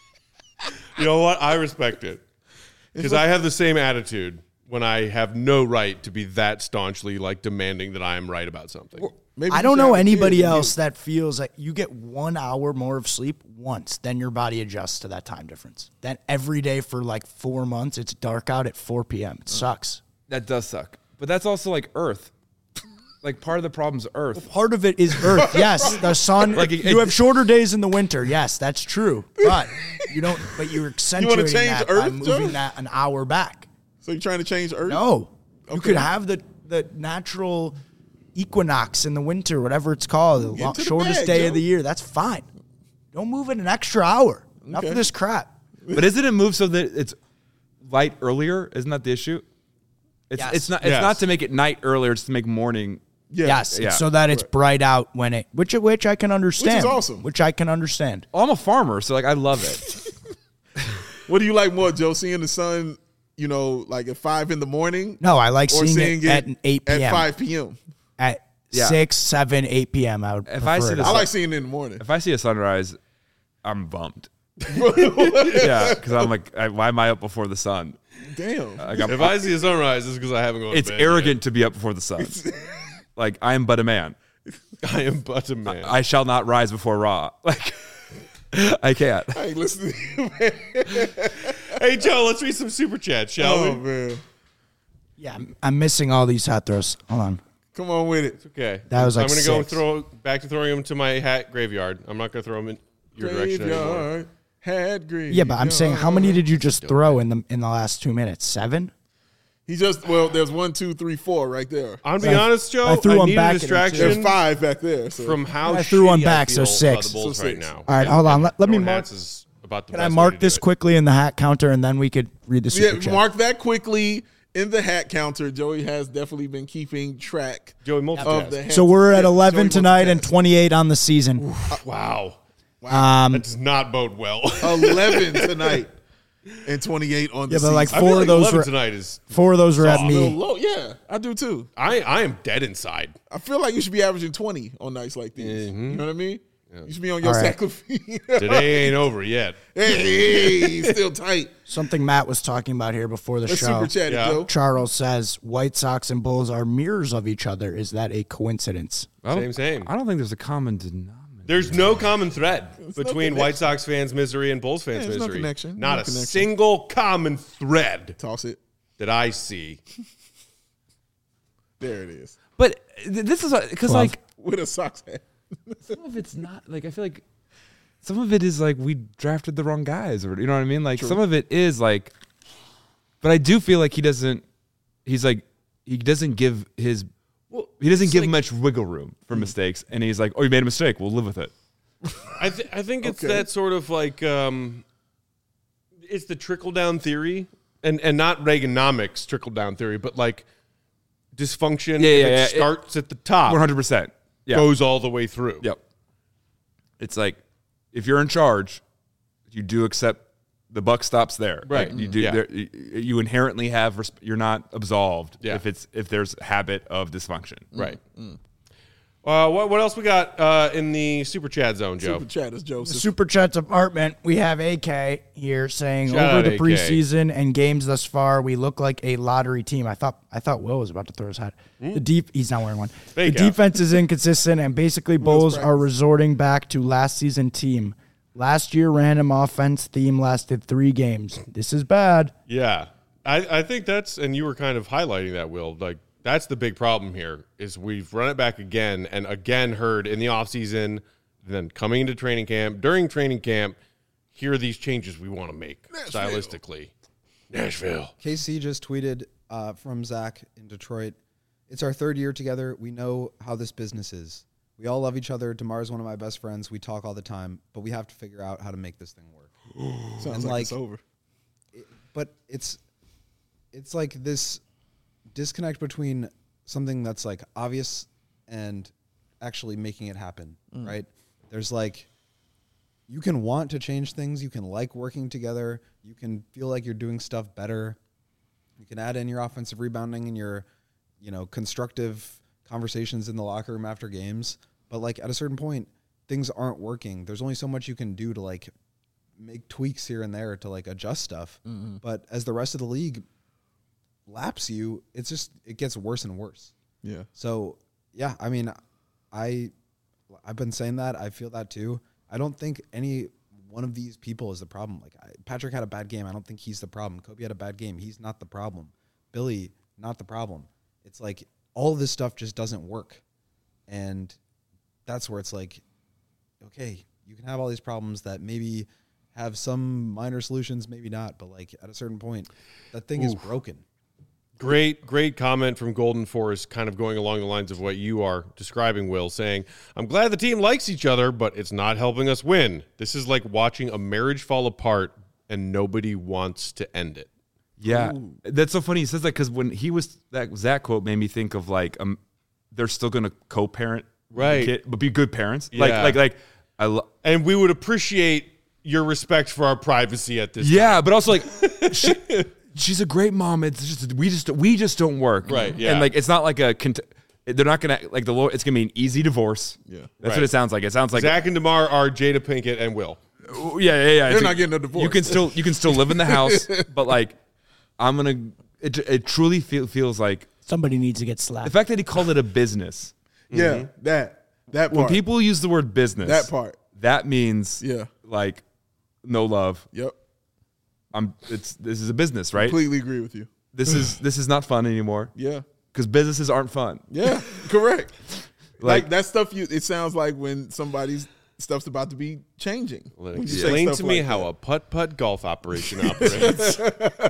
[SPEAKER 1] You know what? I respect it because I have the same attitude when I have no right to be that staunchly like demanding that I am right about something.
[SPEAKER 2] Maybe
[SPEAKER 3] I
[SPEAKER 2] you
[SPEAKER 3] don't
[SPEAKER 2] should
[SPEAKER 3] know
[SPEAKER 2] have a kid
[SPEAKER 3] anybody
[SPEAKER 2] and
[SPEAKER 3] else that feels like you get 1 hour more of sleep once, then your body adjusts to that time difference. Then every day for like 4 months, it's dark out at 4 p.m. It sucks.
[SPEAKER 4] That does suck. But that's also like Earth. Like part of the problem's Earth.
[SPEAKER 3] Part of it is Earth. Yes, the sun.
[SPEAKER 4] Like,
[SPEAKER 3] You have shorter days in the winter. Yes, that's true. But you don't. But you're accentuating
[SPEAKER 2] change
[SPEAKER 3] that by
[SPEAKER 2] Earth,
[SPEAKER 3] moving
[SPEAKER 2] Joe?
[SPEAKER 3] that an hour back.
[SPEAKER 2] So you're trying to change Earth?
[SPEAKER 3] No, you
[SPEAKER 2] Okay.
[SPEAKER 3] could have the natural equinox in the winter, whatever it's called, the
[SPEAKER 2] Get to the
[SPEAKER 3] shortest
[SPEAKER 2] bag,
[SPEAKER 3] day
[SPEAKER 2] Joe.
[SPEAKER 3] of the year. That's fine. Don't move it an extra hour. Enough
[SPEAKER 2] Okay.
[SPEAKER 3] of this crap.
[SPEAKER 4] But isn't it moved so that it's light earlier? Isn't that the issue? It's
[SPEAKER 3] Yes.
[SPEAKER 4] it's not
[SPEAKER 1] Yes.
[SPEAKER 4] not to make it night earlier, it's to make morning.
[SPEAKER 2] Yeah.
[SPEAKER 3] Yes,
[SPEAKER 4] Yeah.
[SPEAKER 3] so that it's bright out when it, which I can understand.
[SPEAKER 2] awesome.
[SPEAKER 3] Which I can understand.
[SPEAKER 4] Well, I'm a farmer, so like I love it.
[SPEAKER 2] What do you like more, Joe? Seeing the sun, like at 5 in the morning?
[SPEAKER 3] No, I like
[SPEAKER 2] Or
[SPEAKER 3] seeing it at 8 p.m.
[SPEAKER 2] At 5 p.m.
[SPEAKER 3] At
[SPEAKER 4] Yeah.
[SPEAKER 3] 6, 7, 8 p.m. I would
[SPEAKER 4] If I
[SPEAKER 3] prefer
[SPEAKER 4] see
[SPEAKER 3] it.
[SPEAKER 4] the
[SPEAKER 2] I
[SPEAKER 4] sun-
[SPEAKER 2] like seeing it in the morning.
[SPEAKER 4] If I see a sunrise, I'm bummed. Yeah, because I'm like, why am I up before the sun?
[SPEAKER 2] Damn.
[SPEAKER 4] Like, I'm-
[SPEAKER 1] If I see a sunrise, it's because I haven't gone to
[SPEAKER 4] it's
[SPEAKER 1] bed
[SPEAKER 4] arrogant to be up before the sun. Like I am but a man.
[SPEAKER 1] yet. I am but a man.
[SPEAKER 4] I shall not rise before Ra. Like I can't.
[SPEAKER 2] I ain't listening to you, man.
[SPEAKER 1] Hey, Joe, let's read some super chats, shall
[SPEAKER 2] Oh,
[SPEAKER 1] we?
[SPEAKER 2] man.
[SPEAKER 3] Yeah, I'm missing all these hat throws. Hold on.
[SPEAKER 2] Come on with it.
[SPEAKER 1] Okay.
[SPEAKER 3] That was like
[SPEAKER 1] I'm going to go
[SPEAKER 3] 6.
[SPEAKER 1] throw back to throwing them to my hat graveyard. I'm not going to throw them in your direction anymore.
[SPEAKER 2] Graveyard. Had graveyard.
[SPEAKER 3] Yeah, but I'm saying, how many did you just throw in the last 2 minutes? 7?
[SPEAKER 2] He there's 1, 2, 3, 4 right there.
[SPEAKER 1] I'm being honest, Joe.
[SPEAKER 3] I threw one
[SPEAKER 1] need
[SPEAKER 3] back
[SPEAKER 1] a
[SPEAKER 3] at him, too.
[SPEAKER 2] There's
[SPEAKER 1] distraction
[SPEAKER 2] 5 back there. So.
[SPEAKER 1] from how
[SPEAKER 3] I threw one
[SPEAKER 1] shitty
[SPEAKER 3] back, so
[SPEAKER 1] feel
[SPEAKER 3] 6.
[SPEAKER 1] about the Bulls
[SPEAKER 2] So
[SPEAKER 1] right
[SPEAKER 2] 6.
[SPEAKER 1] now.
[SPEAKER 3] All right, hold on. Let me
[SPEAKER 1] Throwing
[SPEAKER 3] mark.
[SPEAKER 1] hats is about the
[SPEAKER 3] Can I
[SPEAKER 1] best way
[SPEAKER 3] mark
[SPEAKER 1] to do
[SPEAKER 3] this
[SPEAKER 1] it.
[SPEAKER 3] quickly in the hat counter, and then we could read the super
[SPEAKER 2] Yeah,
[SPEAKER 3] chat?
[SPEAKER 2] mark that quickly in the hat counter. Joey has definitely been keeping track
[SPEAKER 1] Joey
[SPEAKER 2] of
[SPEAKER 1] multitask.
[SPEAKER 2] the hats.
[SPEAKER 3] So we're at
[SPEAKER 2] Yeah,
[SPEAKER 3] 11
[SPEAKER 2] Joey
[SPEAKER 3] tonight and
[SPEAKER 2] multitasks.
[SPEAKER 3] 28 on the season.
[SPEAKER 1] Wow. That does not bode well.
[SPEAKER 2] 11 tonight and 28 on the
[SPEAKER 3] Yeah, but like
[SPEAKER 1] I feel
[SPEAKER 3] 4
[SPEAKER 1] like
[SPEAKER 3] of those
[SPEAKER 1] 11
[SPEAKER 3] were
[SPEAKER 1] tonight is.
[SPEAKER 3] 4 of those were at
[SPEAKER 2] a little
[SPEAKER 3] me.
[SPEAKER 2] low. Yeah, I do too.
[SPEAKER 1] I am dead inside.
[SPEAKER 2] I feel like you should be averaging 20 on nights like these. You know what I mean? You should be on your
[SPEAKER 3] All right.
[SPEAKER 2] sacrifice.
[SPEAKER 1] Today ain't over yet.
[SPEAKER 2] Hey, still tight.
[SPEAKER 3] Something Matt was talking about here before the
[SPEAKER 2] Let's
[SPEAKER 3] show.
[SPEAKER 2] super chat it,
[SPEAKER 1] Yeah.
[SPEAKER 2] Joe.
[SPEAKER 3] Charles says White Sox and Bulls are mirrors of each other. Is that a coincidence?
[SPEAKER 1] Same.
[SPEAKER 4] I don't think there's a common denominator.
[SPEAKER 1] There's no common thread between
[SPEAKER 2] no
[SPEAKER 1] White Sox fans' misery and Bulls fans'
[SPEAKER 2] there's no
[SPEAKER 1] misery.
[SPEAKER 2] connection.
[SPEAKER 1] Not
[SPEAKER 2] No
[SPEAKER 1] a
[SPEAKER 2] connection.
[SPEAKER 1] single common thread
[SPEAKER 2] Toss it.
[SPEAKER 1] that I see.
[SPEAKER 2] There it is.
[SPEAKER 4] But this is because like
[SPEAKER 2] With a Sox hat.
[SPEAKER 4] some of it's not like I feel like some of it is like we drafted the wrong guys, or you know what I mean. Like some of it is like, but I do feel like he doesn't give his. He doesn't give much wiggle room for mistakes, and he's like, "Oh, you made a mistake. We'll live with it."
[SPEAKER 1] I think it's
[SPEAKER 2] Okay.
[SPEAKER 1] that sort of like it's the trickle down theory, and not Reaganomics trickle down theory, but like dysfunction.
[SPEAKER 4] Yeah,
[SPEAKER 1] if
[SPEAKER 4] yeah.
[SPEAKER 1] it starts at the top,
[SPEAKER 4] 100%. Yeah.
[SPEAKER 1] goes all the way through.
[SPEAKER 4] Yep. It's like if you're in charge, you do accept the buck stops there.
[SPEAKER 1] Right.
[SPEAKER 4] Like, you do.
[SPEAKER 1] Yeah.
[SPEAKER 4] You inherently have. You're not absolved
[SPEAKER 1] Yeah.
[SPEAKER 4] if there's habit of dysfunction.
[SPEAKER 1] Right. What else we got in the super chat zone, Joe?
[SPEAKER 2] Super chat is Joseph.
[SPEAKER 3] Super Chat Department, we have AK here saying
[SPEAKER 1] Shout
[SPEAKER 3] over
[SPEAKER 1] out
[SPEAKER 3] the
[SPEAKER 1] AK.
[SPEAKER 3] preseason and games thus far, we look like a lottery team. I thought Will was about to throw his hat. He's not wearing one.
[SPEAKER 1] Fake
[SPEAKER 3] the
[SPEAKER 1] out.
[SPEAKER 3] defense is inconsistent, and basically Bulls are
[SPEAKER 2] practice.
[SPEAKER 3] resorting back to last season team. Last year, random offense theme lasted 3 games. This is bad.
[SPEAKER 1] Yeah. I think that's, and you were kind of highlighting that, Will, like, that's the big problem here is we've run it back again and again heard in the offseason, then coming into training camp, during training camp, here are these changes we want to make stylistically. Nashville.
[SPEAKER 5] KC just tweeted from Zach in Detroit. It's our 3rd year together. We know how this business is. We all love each other. DeMar's one of my best friends. We talk all the time, but we have to figure out how to make this thing work.
[SPEAKER 2] Sounds
[SPEAKER 5] And,
[SPEAKER 2] like
[SPEAKER 5] like,
[SPEAKER 2] it's over.
[SPEAKER 5] But it's like this disconnect between something that's like obvious and actually making it happen, right? There's like, you can want to change things. You can like working together. You can feel like you're doing stuff better. You can add in your offensive rebounding and your, constructive conversations in the locker room after games. But like at a certain point, things aren't working. There's only so much you can do to like make tweaks here and there to like adjust stuff. But as the rest of the league laps you, it gets worse and worse.
[SPEAKER 2] Yeah.
[SPEAKER 5] So yeah, I mean, I've been saying that. I feel that too. I don't think any one of these people is the problem. Like Patrick had a bad game. I don't think he's the problem. Kobe had a bad game. He's not the problem. Billy, not the problem. It's like all of this stuff just doesn't work. And that's where it's like, okay, you can have all these problems that maybe have some minor solutions, maybe not. But like at a certain point, that thing is broken.
[SPEAKER 1] Great comment from Golden Forest, kind of going along the lines of what you are describing, Will, saying, I'm glad the team likes each other, but it's not helping us win. This is like watching a marriage fall apart and nobody wants to end it.
[SPEAKER 4] Yeah, that's so funny. He says that because when he was that Zach quote made me think of like they're still going to co-parent,
[SPEAKER 1] Right.
[SPEAKER 4] the kid, but be good parents.
[SPEAKER 1] Yeah.
[SPEAKER 4] Like
[SPEAKER 1] And we would appreciate your respect for our privacy at this time.
[SPEAKER 4] yeah, but also like she's a great mom. It's just we just don't work.
[SPEAKER 1] Right, yeah.
[SPEAKER 4] And like it's not like they're not gonna like it's gonna be an easy divorce.
[SPEAKER 2] Yeah.
[SPEAKER 4] That's
[SPEAKER 1] Right.
[SPEAKER 4] what it sounds like. It sounds like
[SPEAKER 1] Zach and DeMar are Jada Pinkett and Will.
[SPEAKER 4] yeah.
[SPEAKER 2] They're
[SPEAKER 4] It's
[SPEAKER 2] not getting a divorce.
[SPEAKER 4] You can still live in the house, but like it truly feels like
[SPEAKER 3] Somebody needs to get
[SPEAKER 4] the
[SPEAKER 3] slapped.
[SPEAKER 4] fact that he called it a business.
[SPEAKER 2] Yeah, that part.
[SPEAKER 4] When people use the word business,
[SPEAKER 2] That part.
[SPEAKER 4] that means
[SPEAKER 2] Yeah.
[SPEAKER 4] like no love.
[SPEAKER 2] Yep.
[SPEAKER 4] This is a business, right?
[SPEAKER 2] Completely agree with you.
[SPEAKER 4] This is not fun anymore
[SPEAKER 2] Yeah.
[SPEAKER 4] because businesses aren't fun.
[SPEAKER 2] Yeah. Correct.
[SPEAKER 4] Like-
[SPEAKER 2] Like that stuff it sounds like when somebody's stuff's about to be changing. When you say
[SPEAKER 1] Explain
[SPEAKER 2] stuff
[SPEAKER 1] to me
[SPEAKER 2] like
[SPEAKER 1] how
[SPEAKER 2] that.
[SPEAKER 1] a putt-putt golf operation operates.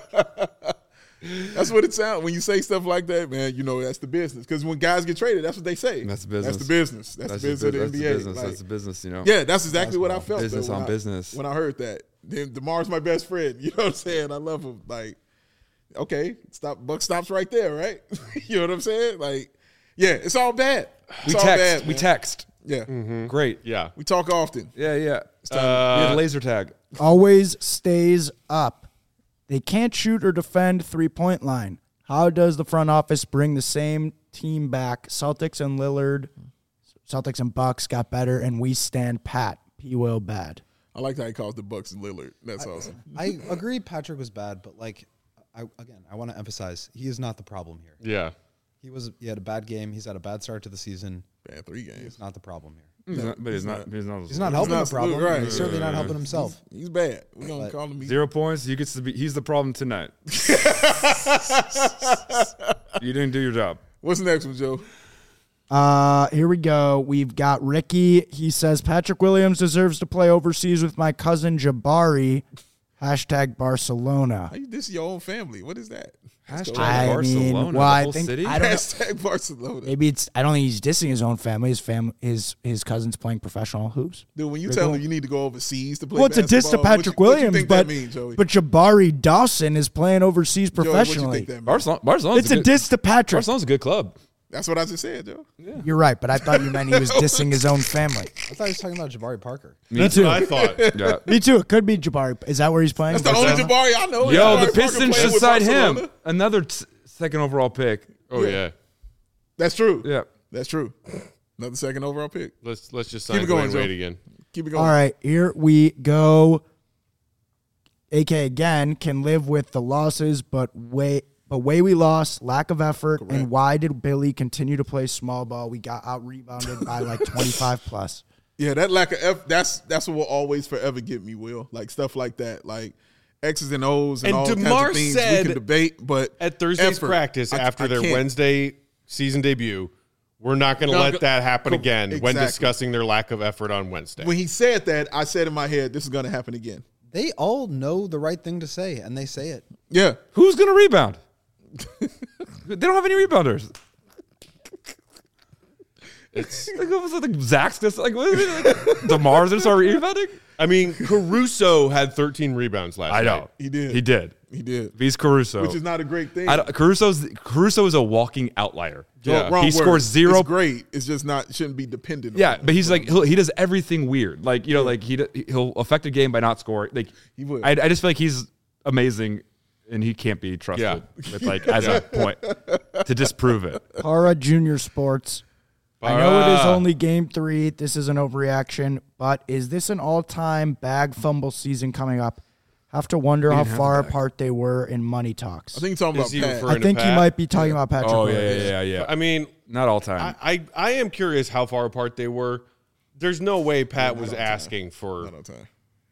[SPEAKER 2] That's what it sounds when you say stuff like that, man. You know that's the business. Because when guys get traded, that's what they say.
[SPEAKER 4] That's the business.
[SPEAKER 2] That's the business. That's the business of the
[SPEAKER 4] that's
[SPEAKER 2] NBA.
[SPEAKER 4] the business.
[SPEAKER 2] Like,
[SPEAKER 4] That's the business. You know.
[SPEAKER 2] yeah, that's exactly what I felt.
[SPEAKER 4] Business
[SPEAKER 2] though, when
[SPEAKER 4] on business.
[SPEAKER 2] When I heard that, then DeMar's my best friend. You know what I'm saying? I love him. Like, okay, buck stops right there, right? You know what I'm saying? Like, yeah, it's all bad. It's all bad,
[SPEAKER 4] We
[SPEAKER 2] man.
[SPEAKER 4] text.
[SPEAKER 2] Yeah,
[SPEAKER 4] Great.
[SPEAKER 1] Yeah.
[SPEAKER 2] we talk often.
[SPEAKER 4] Yeah. We have laser tag.
[SPEAKER 3] Always stays up. They can't shoot or defend 3-point line. How does the front office bring the same team back? Celtics and Bucks got better, and we stand pat. P. Will bad.
[SPEAKER 2] I like how he calls the Bucks and Lillard. That's awesome.
[SPEAKER 5] I agree Patrick was bad, but like, I want to emphasize he is not the problem here.
[SPEAKER 1] Yeah.
[SPEAKER 5] He had a bad game. He's had a bad start to the season.
[SPEAKER 2] Bad 3 games.
[SPEAKER 5] He's not the problem here.
[SPEAKER 4] He's not
[SPEAKER 5] He's not
[SPEAKER 2] He's
[SPEAKER 5] helping
[SPEAKER 2] not
[SPEAKER 5] the problem.
[SPEAKER 2] right.
[SPEAKER 5] He's certainly not helping himself.
[SPEAKER 2] He's bad. We're gonna call him.
[SPEAKER 4] 0 points. He's the problem tonight. You didn't do your job.
[SPEAKER 2] What's next one, Joe?
[SPEAKER 3] Here we go. We've got Ricky. He says, Patrick Williams deserves to play overseas with my cousin Jabari. # Barcelona.
[SPEAKER 2] How you diss your own family? What is that?
[SPEAKER 4] Hashtag
[SPEAKER 3] I
[SPEAKER 4] Barcelona.
[SPEAKER 3] mean,
[SPEAKER 4] the
[SPEAKER 3] well, I
[SPEAKER 4] whole
[SPEAKER 3] think
[SPEAKER 4] city?
[SPEAKER 3] I don't know.
[SPEAKER 2] Hashtag Barcelona.
[SPEAKER 3] Maybe it's. I don't think he's dissing his own family. His cousin's playing professional hoops.
[SPEAKER 2] Dude, when you
[SPEAKER 3] Pretty
[SPEAKER 2] tell
[SPEAKER 3] cool.
[SPEAKER 2] him you need to go overseas to play
[SPEAKER 3] Well, it's a diss to
[SPEAKER 2] basketball,
[SPEAKER 3] Patrick
[SPEAKER 2] what you
[SPEAKER 3] Williams,
[SPEAKER 2] think
[SPEAKER 3] but
[SPEAKER 2] that means, Joey?
[SPEAKER 3] Jabari Dawson is playing overseas
[SPEAKER 2] Joey, what you
[SPEAKER 3] professionally.
[SPEAKER 2] think that means?
[SPEAKER 4] Barcelona's
[SPEAKER 3] It's a diss to Patrick.
[SPEAKER 4] Barcelona's a good club.
[SPEAKER 2] That's what I just said, Joe.
[SPEAKER 3] You're right, but I thought you meant he was dissing his own family.
[SPEAKER 5] I thought he was talking about Jabari Parker.
[SPEAKER 1] That's
[SPEAKER 3] too.
[SPEAKER 1] what I thought.
[SPEAKER 4] Yeah.
[SPEAKER 3] Me too. It could be Jabari. Is that where he's playing?
[SPEAKER 2] That's the only Jabari I know.
[SPEAKER 4] Yo,
[SPEAKER 2] Jabari
[SPEAKER 4] the
[SPEAKER 2] Parker
[SPEAKER 4] Pistons
[SPEAKER 2] playing
[SPEAKER 4] should
[SPEAKER 2] with
[SPEAKER 4] sign
[SPEAKER 2] Barcelona.
[SPEAKER 4] him. Another second overall pick.
[SPEAKER 1] Oh yeah.
[SPEAKER 2] That's true.
[SPEAKER 4] Yeah.
[SPEAKER 2] That's true. Another second overall pick.
[SPEAKER 1] Let's just
[SPEAKER 2] Keep
[SPEAKER 1] sign
[SPEAKER 2] it going,
[SPEAKER 1] Dwayne
[SPEAKER 2] Joe.
[SPEAKER 1] Wade again.
[SPEAKER 2] Keep it going.
[SPEAKER 3] All right, here we go. AK again can live with the losses, but way we lost, lack of effort, and why did Billy continue to play small ball? We got out rebounded by like 25 plus.
[SPEAKER 2] Yeah, that lack of effort, that's what will always forever get me, Will. Like stuff like that. Like X's and O's and
[SPEAKER 1] And
[SPEAKER 2] all
[SPEAKER 1] DeMar
[SPEAKER 2] kinds of things
[SPEAKER 1] said
[SPEAKER 2] we can debate, but
[SPEAKER 1] At Thursday's
[SPEAKER 2] effort,
[SPEAKER 1] practice after
[SPEAKER 2] I
[SPEAKER 1] their
[SPEAKER 2] can't.
[SPEAKER 1] Wednesday season debut, we're not going to
[SPEAKER 2] No,
[SPEAKER 1] let that happen
[SPEAKER 2] co-
[SPEAKER 1] again when
[SPEAKER 2] exactly.
[SPEAKER 1] discussing their lack of effort on Wednesday.
[SPEAKER 2] When he said that, I said in my head, this is going to happen again.
[SPEAKER 5] They all know the right thing to say, and they say it.
[SPEAKER 2] Yeah.
[SPEAKER 4] Who's going to rebound? They don't have any rebounders.
[SPEAKER 1] It's,
[SPEAKER 4] Like, what was it, like Zach's just like, what is it? Like, DeMar's gonna start rebounding?
[SPEAKER 1] I mean, Caruso had 13 rebounds last
[SPEAKER 4] I know.
[SPEAKER 1] night.
[SPEAKER 2] He did.
[SPEAKER 4] He did.
[SPEAKER 2] He did.
[SPEAKER 4] He's Caruso.
[SPEAKER 2] Which is not a great thing.
[SPEAKER 4] Caruso is a walking outlier.
[SPEAKER 1] Yeah.
[SPEAKER 2] Wrong
[SPEAKER 4] He
[SPEAKER 2] word.
[SPEAKER 4] scores zero.
[SPEAKER 2] It's great. It's just not, shouldn't be dependent on
[SPEAKER 4] Yeah,
[SPEAKER 2] it.
[SPEAKER 4] but he's like he does everything weird. Like like he'll affect a game by not scoring. Like
[SPEAKER 2] He would.
[SPEAKER 4] I just feel like he's amazing, and he can't be trusted with like as a point to disprove it.
[SPEAKER 3] Para Junior Sports. I know it is only game 3. This is an overreaction, but is this an all-time bag fumble season coming up? Have to wonder how far apart they were in money talks.
[SPEAKER 2] I think you're talking
[SPEAKER 1] Is
[SPEAKER 2] about
[SPEAKER 1] he
[SPEAKER 2] Pat.
[SPEAKER 1] referring
[SPEAKER 3] I think
[SPEAKER 1] to
[SPEAKER 3] he
[SPEAKER 1] Pat?
[SPEAKER 3] might be talking about Patrick
[SPEAKER 4] Oh
[SPEAKER 3] Williams.
[SPEAKER 4] yeah.
[SPEAKER 1] I mean,
[SPEAKER 4] Not all time.
[SPEAKER 1] I am curious how far apart they were. There's no way Pat was asking for.
[SPEAKER 2] Not on time.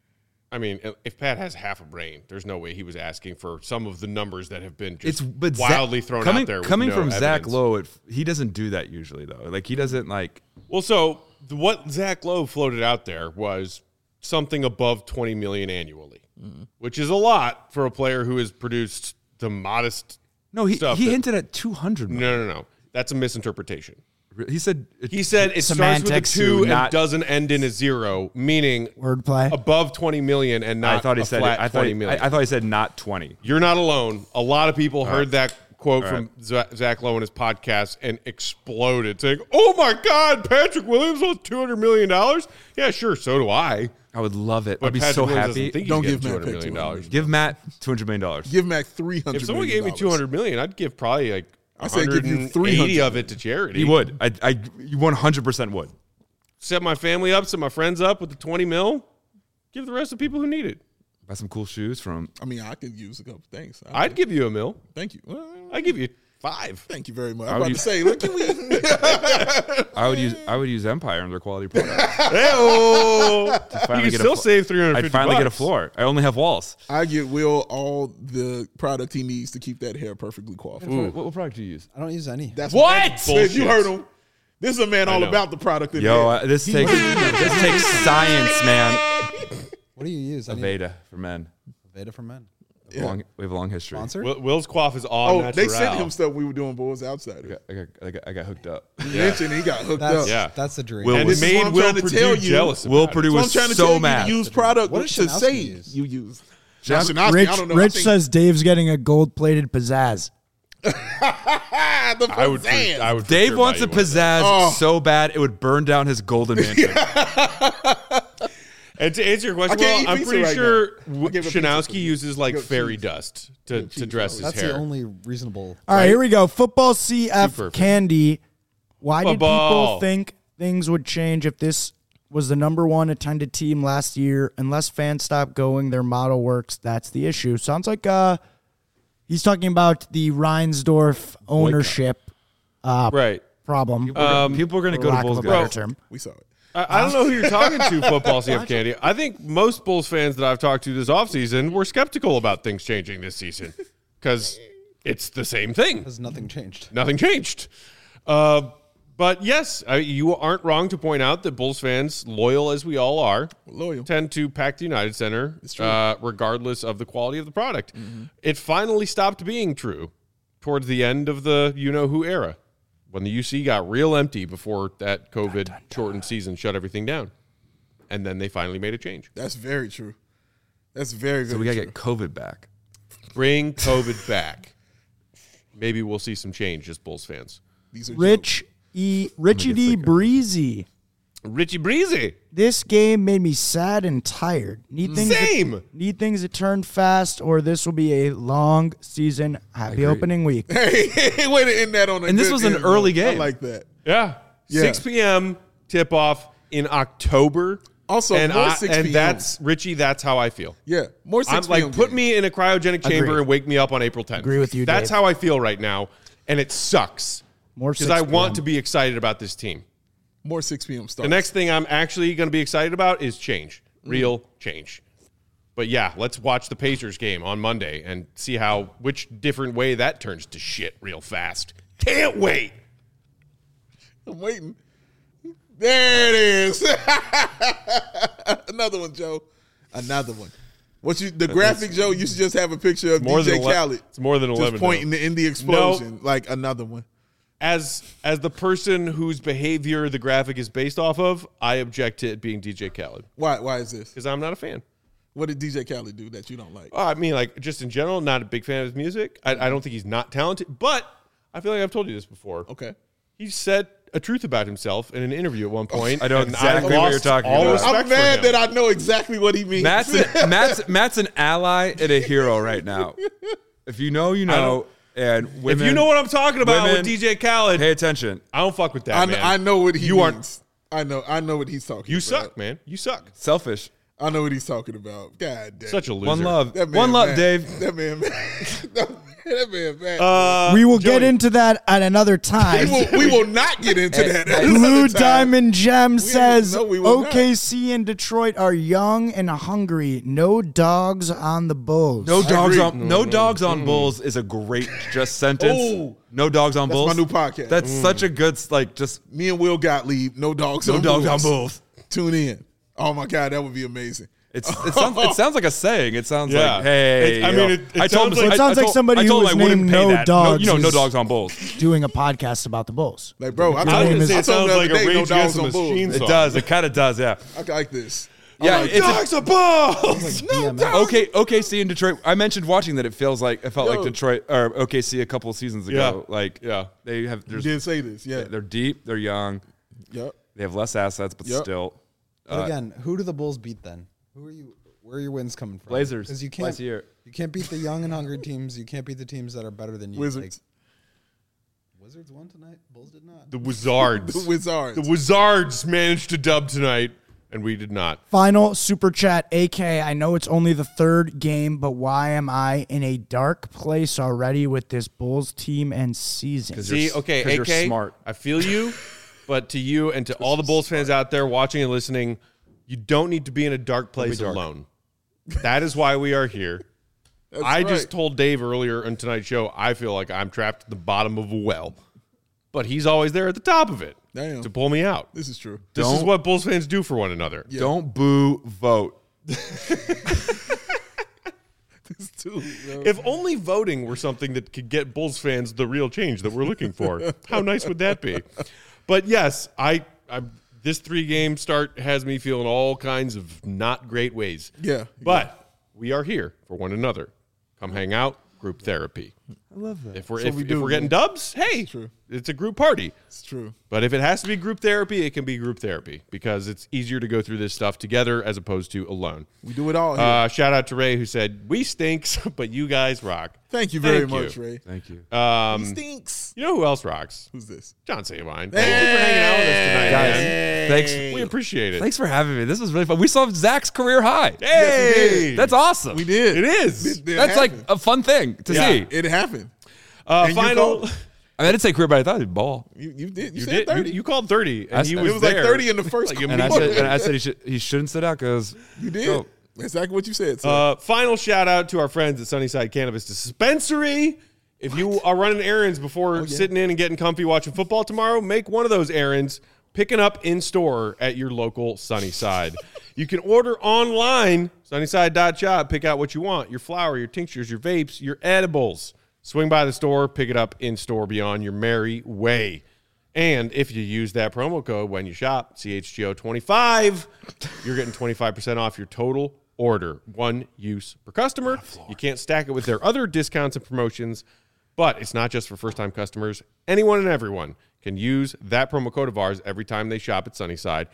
[SPEAKER 1] I mean, if Pat has half a brain, there's no way he was asking for some of the numbers that have been just
[SPEAKER 4] But
[SPEAKER 1] wildly thrown
[SPEAKER 4] coming,
[SPEAKER 1] out there. With
[SPEAKER 4] Coming
[SPEAKER 1] no
[SPEAKER 4] from Zach
[SPEAKER 1] evidence.
[SPEAKER 4] Lowe, he doesn't do that usually though. Like he doesn't like.
[SPEAKER 1] Well, so what Zach Lowe floated out there was something above $20 million annually, which is a lot for a player who has produced the modest.
[SPEAKER 4] No, he
[SPEAKER 1] stuff that-
[SPEAKER 4] hinted at 200.
[SPEAKER 1] No. That's a misinterpretation.
[SPEAKER 4] He said
[SPEAKER 1] He said it
[SPEAKER 3] Semantics,
[SPEAKER 1] starts with a 2 and
[SPEAKER 4] not-
[SPEAKER 1] doesn't end in a 0, meaning
[SPEAKER 3] Wordplay.
[SPEAKER 1] above 20 million and not
[SPEAKER 4] I thought he
[SPEAKER 1] a
[SPEAKER 4] said
[SPEAKER 1] flat
[SPEAKER 4] I thought
[SPEAKER 1] 20
[SPEAKER 4] he,
[SPEAKER 1] million.
[SPEAKER 4] I thought he said not 20.
[SPEAKER 1] You're not alone. A lot of people heard that quote
[SPEAKER 4] All
[SPEAKER 1] from Zach Lowe in his podcast and exploded, saying, "Oh my God, Patrick Williams wants $200 million." Yeah, sure, so do I.
[SPEAKER 4] I would love it.
[SPEAKER 1] But
[SPEAKER 4] I'd be
[SPEAKER 1] Patrick
[SPEAKER 4] so
[SPEAKER 1] Williams
[SPEAKER 4] happy.
[SPEAKER 1] doesn't think
[SPEAKER 2] Don't
[SPEAKER 1] he's
[SPEAKER 2] give
[SPEAKER 1] getting
[SPEAKER 2] Matt
[SPEAKER 1] $200
[SPEAKER 2] Pitt
[SPEAKER 1] million.
[SPEAKER 2] $200
[SPEAKER 4] Give Matt $200 million.
[SPEAKER 2] Give Mac $300
[SPEAKER 1] If someone gave me $200 million, I'd give probably like
[SPEAKER 2] I said give you
[SPEAKER 1] 180
[SPEAKER 2] $300
[SPEAKER 1] of it to charity.
[SPEAKER 4] He would. I 100% would.
[SPEAKER 1] Set my family up, set my friends up with the 20 mil. Give the rest to people who need it.
[SPEAKER 4] Buy some cool shoes from.
[SPEAKER 2] I mean, I could use a couple things.
[SPEAKER 1] I'd give you $1 million.
[SPEAKER 2] Thank you. Well,
[SPEAKER 1] I'd give you 5.
[SPEAKER 2] thank you very much.
[SPEAKER 4] I
[SPEAKER 2] I'm
[SPEAKER 4] would
[SPEAKER 2] about to
[SPEAKER 4] use-
[SPEAKER 2] say, look, can we?
[SPEAKER 4] I would use Empire and their quality product.
[SPEAKER 1] Hey-oh. You
[SPEAKER 4] finally
[SPEAKER 1] can
[SPEAKER 4] get a
[SPEAKER 1] still
[SPEAKER 4] flo-
[SPEAKER 1] save $350.
[SPEAKER 4] I'd finally get a floor. I only have walls.
[SPEAKER 2] I get Will all the product he needs to keep that hair perfectly coiffed.
[SPEAKER 4] What product do you use?
[SPEAKER 5] I don't use any.
[SPEAKER 2] That's
[SPEAKER 1] What?
[SPEAKER 2] Said
[SPEAKER 1] Bullshit.
[SPEAKER 2] you heard him. This is a man all
[SPEAKER 1] know.
[SPEAKER 2] about the product. In
[SPEAKER 4] Yo,
[SPEAKER 2] there.
[SPEAKER 4] this takes science, man.
[SPEAKER 5] What do you use? I need
[SPEAKER 4] Aveda for men.
[SPEAKER 5] Aveda for men.
[SPEAKER 4] We have a long history.
[SPEAKER 5] Sponsor?
[SPEAKER 1] Will's quaff is all
[SPEAKER 2] Oh,
[SPEAKER 1] natural.
[SPEAKER 2] they sent him stuff we were doing Bulls Outsiders.
[SPEAKER 4] I got hooked up.
[SPEAKER 2] He mentioned he got hooked
[SPEAKER 5] That's
[SPEAKER 2] up.
[SPEAKER 1] Yeah.
[SPEAKER 5] that's the dream.
[SPEAKER 4] Will
[SPEAKER 1] And
[SPEAKER 4] was-
[SPEAKER 1] it
[SPEAKER 2] This is what
[SPEAKER 1] made
[SPEAKER 2] I'm
[SPEAKER 1] Will
[SPEAKER 2] trying to
[SPEAKER 1] Purdue
[SPEAKER 2] tell you.
[SPEAKER 1] jealous.
[SPEAKER 4] Will
[SPEAKER 1] about it.
[SPEAKER 4] Purdue
[SPEAKER 2] So I'm
[SPEAKER 4] was
[SPEAKER 2] trying to
[SPEAKER 4] so
[SPEAKER 2] tell you
[SPEAKER 4] mad.
[SPEAKER 2] to use product
[SPEAKER 5] What does
[SPEAKER 2] to
[SPEAKER 5] Shanowski
[SPEAKER 2] say
[SPEAKER 5] use?
[SPEAKER 2] you use.
[SPEAKER 4] Shan-
[SPEAKER 2] Shanowski,
[SPEAKER 3] Rich,
[SPEAKER 2] I don't know.
[SPEAKER 3] Rich
[SPEAKER 2] I think-
[SPEAKER 3] says Dave's getting a gold-plated pizzazz.
[SPEAKER 2] the
[SPEAKER 1] I would.
[SPEAKER 2] pizzazz.
[SPEAKER 1] I would. for
[SPEAKER 4] Dave
[SPEAKER 1] sure
[SPEAKER 4] wants
[SPEAKER 1] buy
[SPEAKER 4] a
[SPEAKER 1] you one of those.
[SPEAKER 4] pizzazz
[SPEAKER 2] Oh.
[SPEAKER 4] so bad it would burn down his golden mansion.
[SPEAKER 1] And to answer your question,
[SPEAKER 2] I can't
[SPEAKER 1] well,
[SPEAKER 2] eat
[SPEAKER 1] I'm
[SPEAKER 2] pizza
[SPEAKER 1] pretty
[SPEAKER 2] right
[SPEAKER 1] sure
[SPEAKER 2] now. I gave a pizza
[SPEAKER 1] Shanowski
[SPEAKER 2] for you.
[SPEAKER 1] uses like
[SPEAKER 2] Goat
[SPEAKER 1] fairy
[SPEAKER 2] cheese.
[SPEAKER 1] dust to
[SPEAKER 2] cheese,
[SPEAKER 1] dress his
[SPEAKER 5] That's
[SPEAKER 1] hair.
[SPEAKER 5] the only reasonable.
[SPEAKER 3] All right, here we go. Football CF
[SPEAKER 1] perfect.
[SPEAKER 3] Candy. Why did
[SPEAKER 1] Football.
[SPEAKER 3] people think things would change if this was the #1 attended team last year? Unless fans stop going, their model works. That's the issue. Sounds like he's talking about the Reinsdorf ownership
[SPEAKER 1] Right.
[SPEAKER 3] problem.
[SPEAKER 4] People are going to
[SPEAKER 3] for
[SPEAKER 4] go to
[SPEAKER 3] lack of
[SPEAKER 4] Bulls
[SPEAKER 3] a better
[SPEAKER 4] guys.
[SPEAKER 3] term.
[SPEAKER 2] We saw it.
[SPEAKER 1] I don't know who you're talking to, football CF Candy. I think most Bulls fans that I've talked to this offseason were skeptical about things changing this season because it's the same thing.
[SPEAKER 5] Has nothing changed.
[SPEAKER 1] Nothing changed. But yes, you aren't wrong to point out that Bulls fans, loyal as we all are,
[SPEAKER 2] Loyal.
[SPEAKER 1] tend to pack the United Center regardless of the quality of the product.
[SPEAKER 2] Mm-hmm.
[SPEAKER 1] It finally stopped being true towards the end of the you-know-who era when the UC got real empty before that COVID-shortened season shut everything down. And then they finally made a change.
[SPEAKER 2] That's very true. That's very, very
[SPEAKER 4] So we got to
[SPEAKER 2] true.
[SPEAKER 4] get COVID back.
[SPEAKER 1] Bring COVID back. Maybe we'll see some change as Bulls fans.
[SPEAKER 2] These are
[SPEAKER 3] Richie D. Breezy.
[SPEAKER 1] Richie Breezy.
[SPEAKER 3] This game made me sad and tired. Need things to turn fast, or this will be a long season. Happy opening week.
[SPEAKER 2] Hey, way to end that on a
[SPEAKER 4] And this
[SPEAKER 2] good
[SPEAKER 4] was an
[SPEAKER 2] end,
[SPEAKER 4] early
[SPEAKER 2] though. I
[SPEAKER 4] game.
[SPEAKER 2] like that.
[SPEAKER 1] Yeah.
[SPEAKER 2] Yeah.
[SPEAKER 1] 6 p.m. tip-off in October.
[SPEAKER 2] Also,
[SPEAKER 1] and
[SPEAKER 2] more 6 p.m.
[SPEAKER 1] And that's, Richie, that's how I feel.
[SPEAKER 2] Yeah, more 6
[SPEAKER 1] I'm
[SPEAKER 2] p.m.
[SPEAKER 1] like, put
[SPEAKER 2] game.
[SPEAKER 1] me in a cryogenic chamber
[SPEAKER 3] Agree.
[SPEAKER 1] and wake me up on April 10th.
[SPEAKER 3] Agree with you,
[SPEAKER 1] That's
[SPEAKER 3] Dave.
[SPEAKER 1] how I feel right now, and it sucks.
[SPEAKER 3] More
[SPEAKER 1] Because
[SPEAKER 3] 6
[SPEAKER 1] I want
[SPEAKER 3] p.m.
[SPEAKER 1] to be excited about this team.
[SPEAKER 2] More 6 p.m. start.
[SPEAKER 1] The next thing I'm actually going to be excited about is change. Real change. But yeah, let's watch the Pacers game on Monday and see which different way that turns to shit real fast. Can't wait.
[SPEAKER 2] I'm waiting. There it is. Another one, Joe. Another one. The graphic, Joe, used to just have a picture of
[SPEAKER 1] more
[SPEAKER 2] DJ
[SPEAKER 1] than
[SPEAKER 2] Khaled.
[SPEAKER 1] It's more than 11.
[SPEAKER 2] Just pointing in the explosion. Like another one.
[SPEAKER 1] As the person whose behavior the graphic is based off of, I object to it being DJ Khaled
[SPEAKER 2] Why is this?
[SPEAKER 1] because I'm not a fan.
[SPEAKER 2] What did DJ Khaled do that you don't like?
[SPEAKER 1] I mean, like, just in general, not a big fan of his music. I don't think he's not talented, but I feel like I've told you this before.
[SPEAKER 2] Okay.
[SPEAKER 1] He said a truth about himself in an interview at one point.
[SPEAKER 4] I know
[SPEAKER 1] and
[SPEAKER 4] exactly
[SPEAKER 1] I
[SPEAKER 4] what you're
[SPEAKER 1] lost
[SPEAKER 4] talking
[SPEAKER 1] all
[SPEAKER 4] about.
[SPEAKER 1] respect
[SPEAKER 2] I'm
[SPEAKER 1] for
[SPEAKER 2] mad
[SPEAKER 1] him.
[SPEAKER 2] that I know exactly what he means.
[SPEAKER 4] Matt's an ally and a hero right now. If you know, you know. And women,
[SPEAKER 1] if you know what I'm talking about
[SPEAKER 4] women,
[SPEAKER 1] with DJ Khaled,
[SPEAKER 4] pay attention.
[SPEAKER 1] I don't fuck with that, man.
[SPEAKER 2] I know what he
[SPEAKER 1] You aren't-
[SPEAKER 2] means. I know what he's talking
[SPEAKER 1] You
[SPEAKER 2] about.
[SPEAKER 1] suck, man. You suck.
[SPEAKER 4] Selfish.
[SPEAKER 2] I know what he's talking about. God damn.
[SPEAKER 1] Such a loser.
[SPEAKER 4] One love.
[SPEAKER 2] That man
[SPEAKER 4] One love,
[SPEAKER 2] mad.
[SPEAKER 4] Dave.
[SPEAKER 2] That man mad. That man mad.
[SPEAKER 3] We will get
[SPEAKER 1] Joey.
[SPEAKER 3] into that at another time.
[SPEAKER 2] we will not get into that. at
[SPEAKER 3] Blue
[SPEAKER 2] another time.
[SPEAKER 3] Diamond Gem says
[SPEAKER 2] no, we will not.
[SPEAKER 3] OKC and Detroit are young and hungry. No dogs on the Bulls.
[SPEAKER 4] No dogs
[SPEAKER 2] agree.
[SPEAKER 4] on dogs on Bulls is a great just sentence.
[SPEAKER 2] Oh.
[SPEAKER 4] No dogs on
[SPEAKER 2] That's
[SPEAKER 4] Bulls.
[SPEAKER 2] my new podcast.
[SPEAKER 4] That's such a good just
[SPEAKER 2] Me and Will Gottlieb, no dogs
[SPEAKER 4] no
[SPEAKER 2] on
[SPEAKER 4] dogs
[SPEAKER 2] Bulls.
[SPEAKER 4] on Bulls.
[SPEAKER 2] Tune in. Oh my God, that would be amazing.
[SPEAKER 4] It sounds like a saying. It sounds
[SPEAKER 1] Yeah.
[SPEAKER 4] like, hey,
[SPEAKER 1] I mean, it
[SPEAKER 4] I told
[SPEAKER 1] sounds
[SPEAKER 4] him,
[SPEAKER 1] like-
[SPEAKER 3] It sounds like somebody
[SPEAKER 4] I
[SPEAKER 3] who
[SPEAKER 4] told
[SPEAKER 3] was
[SPEAKER 4] him I wouldn't
[SPEAKER 3] named
[SPEAKER 4] pay
[SPEAKER 3] No
[SPEAKER 4] that.
[SPEAKER 3] Dogs
[SPEAKER 4] No
[SPEAKER 3] is-
[SPEAKER 4] dogs on Bulls.
[SPEAKER 3] Doing a podcast about the Bulls.
[SPEAKER 2] Like, bro, I
[SPEAKER 3] Your
[SPEAKER 2] told
[SPEAKER 3] name
[SPEAKER 2] him
[SPEAKER 3] is-
[SPEAKER 1] It
[SPEAKER 2] I told
[SPEAKER 1] sounds
[SPEAKER 2] him
[SPEAKER 1] like
[SPEAKER 2] the
[SPEAKER 1] a
[SPEAKER 2] other day, no
[SPEAKER 1] Rage
[SPEAKER 2] dogs
[SPEAKER 1] Against the
[SPEAKER 2] on Bulls.
[SPEAKER 1] Machine
[SPEAKER 4] It
[SPEAKER 1] song.
[SPEAKER 4] does. It kind of does. Yeah.
[SPEAKER 2] I like this.
[SPEAKER 4] Yeah.
[SPEAKER 2] like
[SPEAKER 4] It's
[SPEAKER 1] Dogs are balls.
[SPEAKER 4] okay. OKC in Detroit. I mentioned watching that. It felt like
[SPEAKER 2] Yo.
[SPEAKER 4] Detroit or OKC a couple of seasons ago.
[SPEAKER 1] Yeah.
[SPEAKER 4] Like,
[SPEAKER 1] Yeah.
[SPEAKER 4] they have.
[SPEAKER 2] You did say this, yeah.
[SPEAKER 4] They're deep. They're young.
[SPEAKER 2] Yep.
[SPEAKER 4] They have less assets, but
[SPEAKER 2] Yep.
[SPEAKER 4] still.
[SPEAKER 5] But again, who do the Bulls beat then? Where are your wins coming from?
[SPEAKER 4] Blazers.
[SPEAKER 5] Because you
[SPEAKER 4] Twice a year.
[SPEAKER 5] can't beat the young and hungry teams. You can't beat the teams that are better than you.
[SPEAKER 2] Wizards.
[SPEAKER 5] Wizards won tonight. Bulls did not.
[SPEAKER 1] The Wizards.
[SPEAKER 2] The Wizards.
[SPEAKER 1] The Wizards managed to dub tonight, and we did not.
[SPEAKER 3] Final super chat, AK. I know it's only the third game, but why am I in a dark place already with this Bulls team and season?
[SPEAKER 1] See, okay,
[SPEAKER 4] 'cause
[SPEAKER 1] AK,
[SPEAKER 4] you're smart.
[SPEAKER 1] I feel you, but to you and to all the Bulls fans out there watching and listening, you don't need to be in a dark place alone. That is why we are here. I just
[SPEAKER 2] right.
[SPEAKER 1] told Dave earlier in tonight's show, I feel like I'm trapped at the bottom of a well, but he's always there at the top of it
[SPEAKER 2] Damn.
[SPEAKER 1] to pull me out.
[SPEAKER 2] This is true.
[SPEAKER 1] This is what Bulls fans do for one another.
[SPEAKER 4] Don't boo. Vote.
[SPEAKER 2] This too. Yo.
[SPEAKER 1] If only voting were something that could get Bulls fans the real change that we're looking for, how nice would that be? But yes, I this 3-game start has me feeling all kinds of not great ways.
[SPEAKER 2] Yeah.
[SPEAKER 1] But we are here for one another. Come hang out, group therapy.
[SPEAKER 4] I love that.
[SPEAKER 1] If we're
[SPEAKER 2] That's what we do,
[SPEAKER 1] we're getting
[SPEAKER 2] man.
[SPEAKER 1] dubs, hey,
[SPEAKER 2] true.
[SPEAKER 1] it's a group party.
[SPEAKER 2] It's true.
[SPEAKER 1] But if it has to be group therapy, it can be group therapy because it's easier to go through this stuff together as opposed to alone.
[SPEAKER 2] We do it all here.
[SPEAKER 1] Shout out to Ray who said, "We stinks, but you guys rock."
[SPEAKER 2] Thank you very
[SPEAKER 1] thank you.
[SPEAKER 2] much, Ray.
[SPEAKER 4] Thank you.
[SPEAKER 2] He stinks.
[SPEAKER 1] You know who else rocks?
[SPEAKER 2] Who's this?
[SPEAKER 1] John Sabine. Thank you for hanging out with us tonight,
[SPEAKER 4] Guys,
[SPEAKER 1] man.
[SPEAKER 4] thanks.
[SPEAKER 1] We appreciate it.
[SPEAKER 4] Thanks for having me. This was really fun. We saw Zach's career high.
[SPEAKER 1] Hey,
[SPEAKER 2] Yes, we did.
[SPEAKER 4] That's awesome.
[SPEAKER 2] We did.
[SPEAKER 1] It is.
[SPEAKER 2] It
[SPEAKER 4] That's like
[SPEAKER 2] happened.
[SPEAKER 4] a fun thing to
[SPEAKER 1] Yeah.
[SPEAKER 4] see.
[SPEAKER 2] It happened. And you
[SPEAKER 1] Final.
[SPEAKER 2] called-
[SPEAKER 4] I mean, I didn't say career, but I thought he'd ball.
[SPEAKER 2] You did. You,
[SPEAKER 1] You
[SPEAKER 2] said
[SPEAKER 1] did.
[SPEAKER 2] 30.
[SPEAKER 1] You called 30, and
[SPEAKER 4] I
[SPEAKER 1] he
[SPEAKER 4] said-
[SPEAKER 1] was
[SPEAKER 2] it was
[SPEAKER 1] there.
[SPEAKER 2] like 30 in the first.
[SPEAKER 1] Like
[SPEAKER 4] And I said he shouldn't sit out because
[SPEAKER 2] You did.
[SPEAKER 4] Go.
[SPEAKER 2] That's exactly what you said. Sir.
[SPEAKER 1] Final shout out to our friends at Sunnyside Cannabis Dispensary. If you are running errands before sitting in and getting comfy watching football tomorrow, make one of those errands picking up in store at your local Sunnyside. You can order online, sunnyside.shop, pick out what you want, your flower, your tinctures, your vapes, your edibles. Swing by the store, pick it up in store beyond your merry way. And if you use that promo code when you shop, CHGO25, you're getting 25% off your total order. One use per customer. You can't stack it with their other discounts and promotions. But it's not just for first-time customers. Anyone and everyone can use that promo code of ours every time they shop at Sunnyside,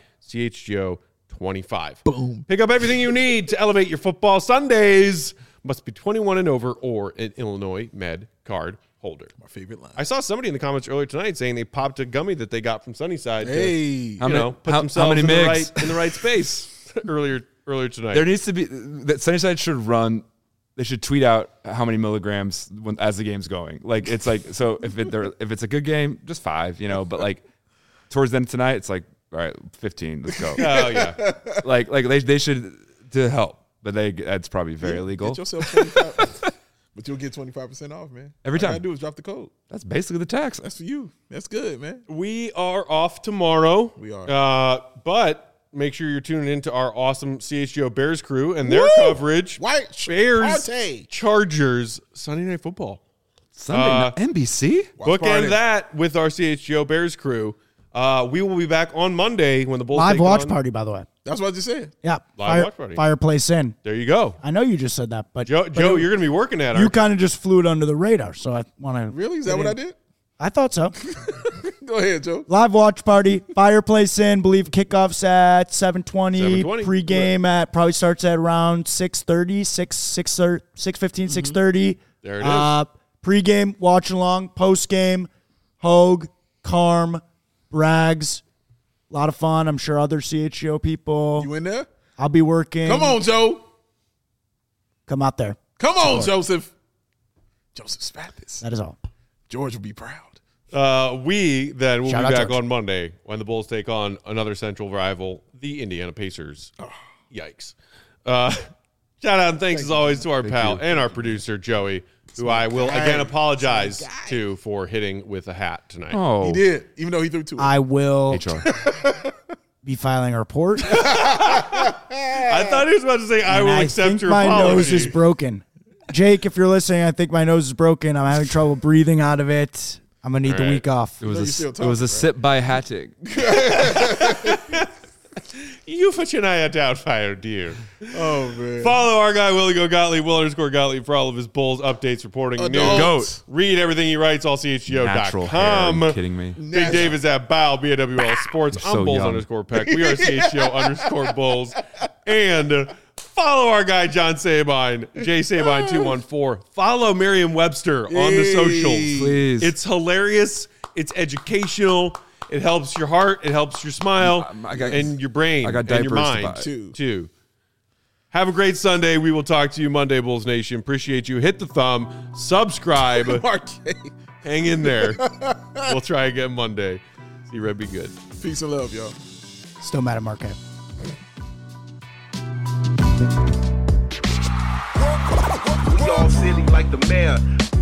[SPEAKER 1] CHGO25.
[SPEAKER 2] Boom.
[SPEAKER 1] Pick up everything you need to elevate your football Sundays. Must be 21 and over or an Illinois Med card holder.
[SPEAKER 2] My favorite line.
[SPEAKER 1] I saw somebody in the comments earlier tonight saying they popped a gummy that they got from Sunnyside
[SPEAKER 2] Hey.
[SPEAKER 1] to put themselves in the right space earlier tonight.
[SPEAKER 4] There needs to be that Sunnyside should run. They should tweet out how many milligrams as the game's going. Like it's like so if it's a good game, just 5, but like towards the end tonight, it's like all right, 15. Let's go.
[SPEAKER 1] Oh yeah.
[SPEAKER 4] like they should to help, but that's probably very illegal.
[SPEAKER 2] Get yourself 25, but you'll get 25% off, man.
[SPEAKER 4] Every time.
[SPEAKER 2] All you gotta do is drop the code.
[SPEAKER 4] That's basically the tax.
[SPEAKER 2] That's for you. That's good, man.
[SPEAKER 1] We are off tomorrow.
[SPEAKER 2] We are.
[SPEAKER 1] But make sure you're tuning into our awesome CHGO Bears crew and their coverage.
[SPEAKER 2] White
[SPEAKER 1] Bears,
[SPEAKER 2] Party.
[SPEAKER 1] Chargers, Sunday Night Football.
[SPEAKER 4] Sunday night, NBC.
[SPEAKER 2] Watch
[SPEAKER 1] Bookend
[SPEAKER 2] party.
[SPEAKER 1] that with our CHGO Bears crew. We will be back on Monday when the Bulls
[SPEAKER 3] Live
[SPEAKER 1] take
[SPEAKER 3] watch
[SPEAKER 1] on-
[SPEAKER 3] party, by the way.
[SPEAKER 2] That's what I just said.
[SPEAKER 3] Yeah.
[SPEAKER 1] Live watch party.
[SPEAKER 3] Fireplace in.
[SPEAKER 1] There you go.
[SPEAKER 3] I know you just said that, but
[SPEAKER 1] Joe, you're going to be working at
[SPEAKER 3] you
[SPEAKER 1] it.
[SPEAKER 3] kind of just flew it under the radar. So I want to.
[SPEAKER 2] Really? Is that what I did?
[SPEAKER 3] I thought so.
[SPEAKER 2] Go ahead, Joe.
[SPEAKER 3] Live watch party, fireplace in. Believe kickoffs at 7:20.
[SPEAKER 1] 7:20.
[SPEAKER 3] Pregame at probably starts at around 6:30, 6:15, 6:30.
[SPEAKER 1] There it is.
[SPEAKER 3] Pregame, watch along. Postgame, Hogue, Carm, Braggs. A lot of fun. I'm sure other CHGO people.
[SPEAKER 2] You in there?
[SPEAKER 3] I'll be working.
[SPEAKER 2] Come on, Joe.
[SPEAKER 3] Come out there.
[SPEAKER 2] Come on, Joseph. Joseph Spathis.
[SPEAKER 3] That is all.
[SPEAKER 2] George will be proud.
[SPEAKER 1] We then will
[SPEAKER 3] Shout
[SPEAKER 1] be
[SPEAKER 3] out
[SPEAKER 1] back
[SPEAKER 3] George.
[SPEAKER 1] on Monday when the Bulls take on another central rival, the Indiana Pacers. Yikes. Shout out and thanks as always to our pal and our producer, Joey, who I will again apologize to for hitting with a hat tonight.
[SPEAKER 4] Oh,
[SPEAKER 2] He did, even though he threw 2.
[SPEAKER 3] I will
[SPEAKER 4] HR.
[SPEAKER 3] be filing a report.
[SPEAKER 1] I thought he was about to say, I
[SPEAKER 3] And
[SPEAKER 1] will
[SPEAKER 3] I
[SPEAKER 1] accept
[SPEAKER 3] think
[SPEAKER 1] your
[SPEAKER 3] my
[SPEAKER 1] apology.
[SPEAKER 3] nose is broken. Jake, if you're listening, I think my nose is broken. I'm having trouble breathing out of it. I'm going to need the
[SPEAKER 1] All right.
[SPEAKER 3] week off.
[SPEAKER 4] It was
[SPEAKER 2] you're
[SPEAKER 4] a
[SPEAKER 2] still
[SPEAKER 4] it was a
[SPEAKER 2] talking,
[SPEAKER 4] sip by Hattig.
[SPEAKER 1] You put your eye down, fire, dear.
[SPEAKER 2] Oh, man.
[SPEAKER 1] Follow our guy, Willie Go Gottlieb, Will_Gottlieb, for all of his Bulls updates, reporting
[SPEAKER 2] Adults.
[SPEAKER 1] news. Read everything he writes,
[SPEAKER 4] Natural hair.
[SPEAKER 1] allchgo.com.
[SPEAKER 4] Are you kidding me?
[SPEAKER 1] Big Dave is at Bow, BAWL Sports.
[SPEAKER 4] You're
[SPEAKER 1] I'm
[SPEAKER 4] so
[SPEAKER 1] Bulls
[SPEAKER 4] young.
[SPEAKER 1] _Peck. We are CHGO_Bulls. And follow our guy, John Sabine, JSabine214. Follow Merriam-Webster on the socials.
[SPEAKER 4] Please.
[SPEAKER 1] It's hilarious. It's educational. It helps your heart. It helps your smile and your brain
[SPEAKER 4] I got
[SPEAKER 1] and your
[SPEAKER 4] diapers to
[SPEAKER 1] mind,
[SPEAKER 4] buy.
[SPEAKER 1] too. Have a great Sunday. We will talk to you Monday, Bulls Nation. Appreciate you. Hit the thumb. Subscribe.
[SPEAKER 2] Marquez.
[SPEAKER 1] Hang in there. We'll try again Monday. See Red be good.
[SPEAKER 2] Peace and love, y'all.
[SPEAKER 3] Still mad at Marquette.
[SPEAKER 6] We all silly like the mayor.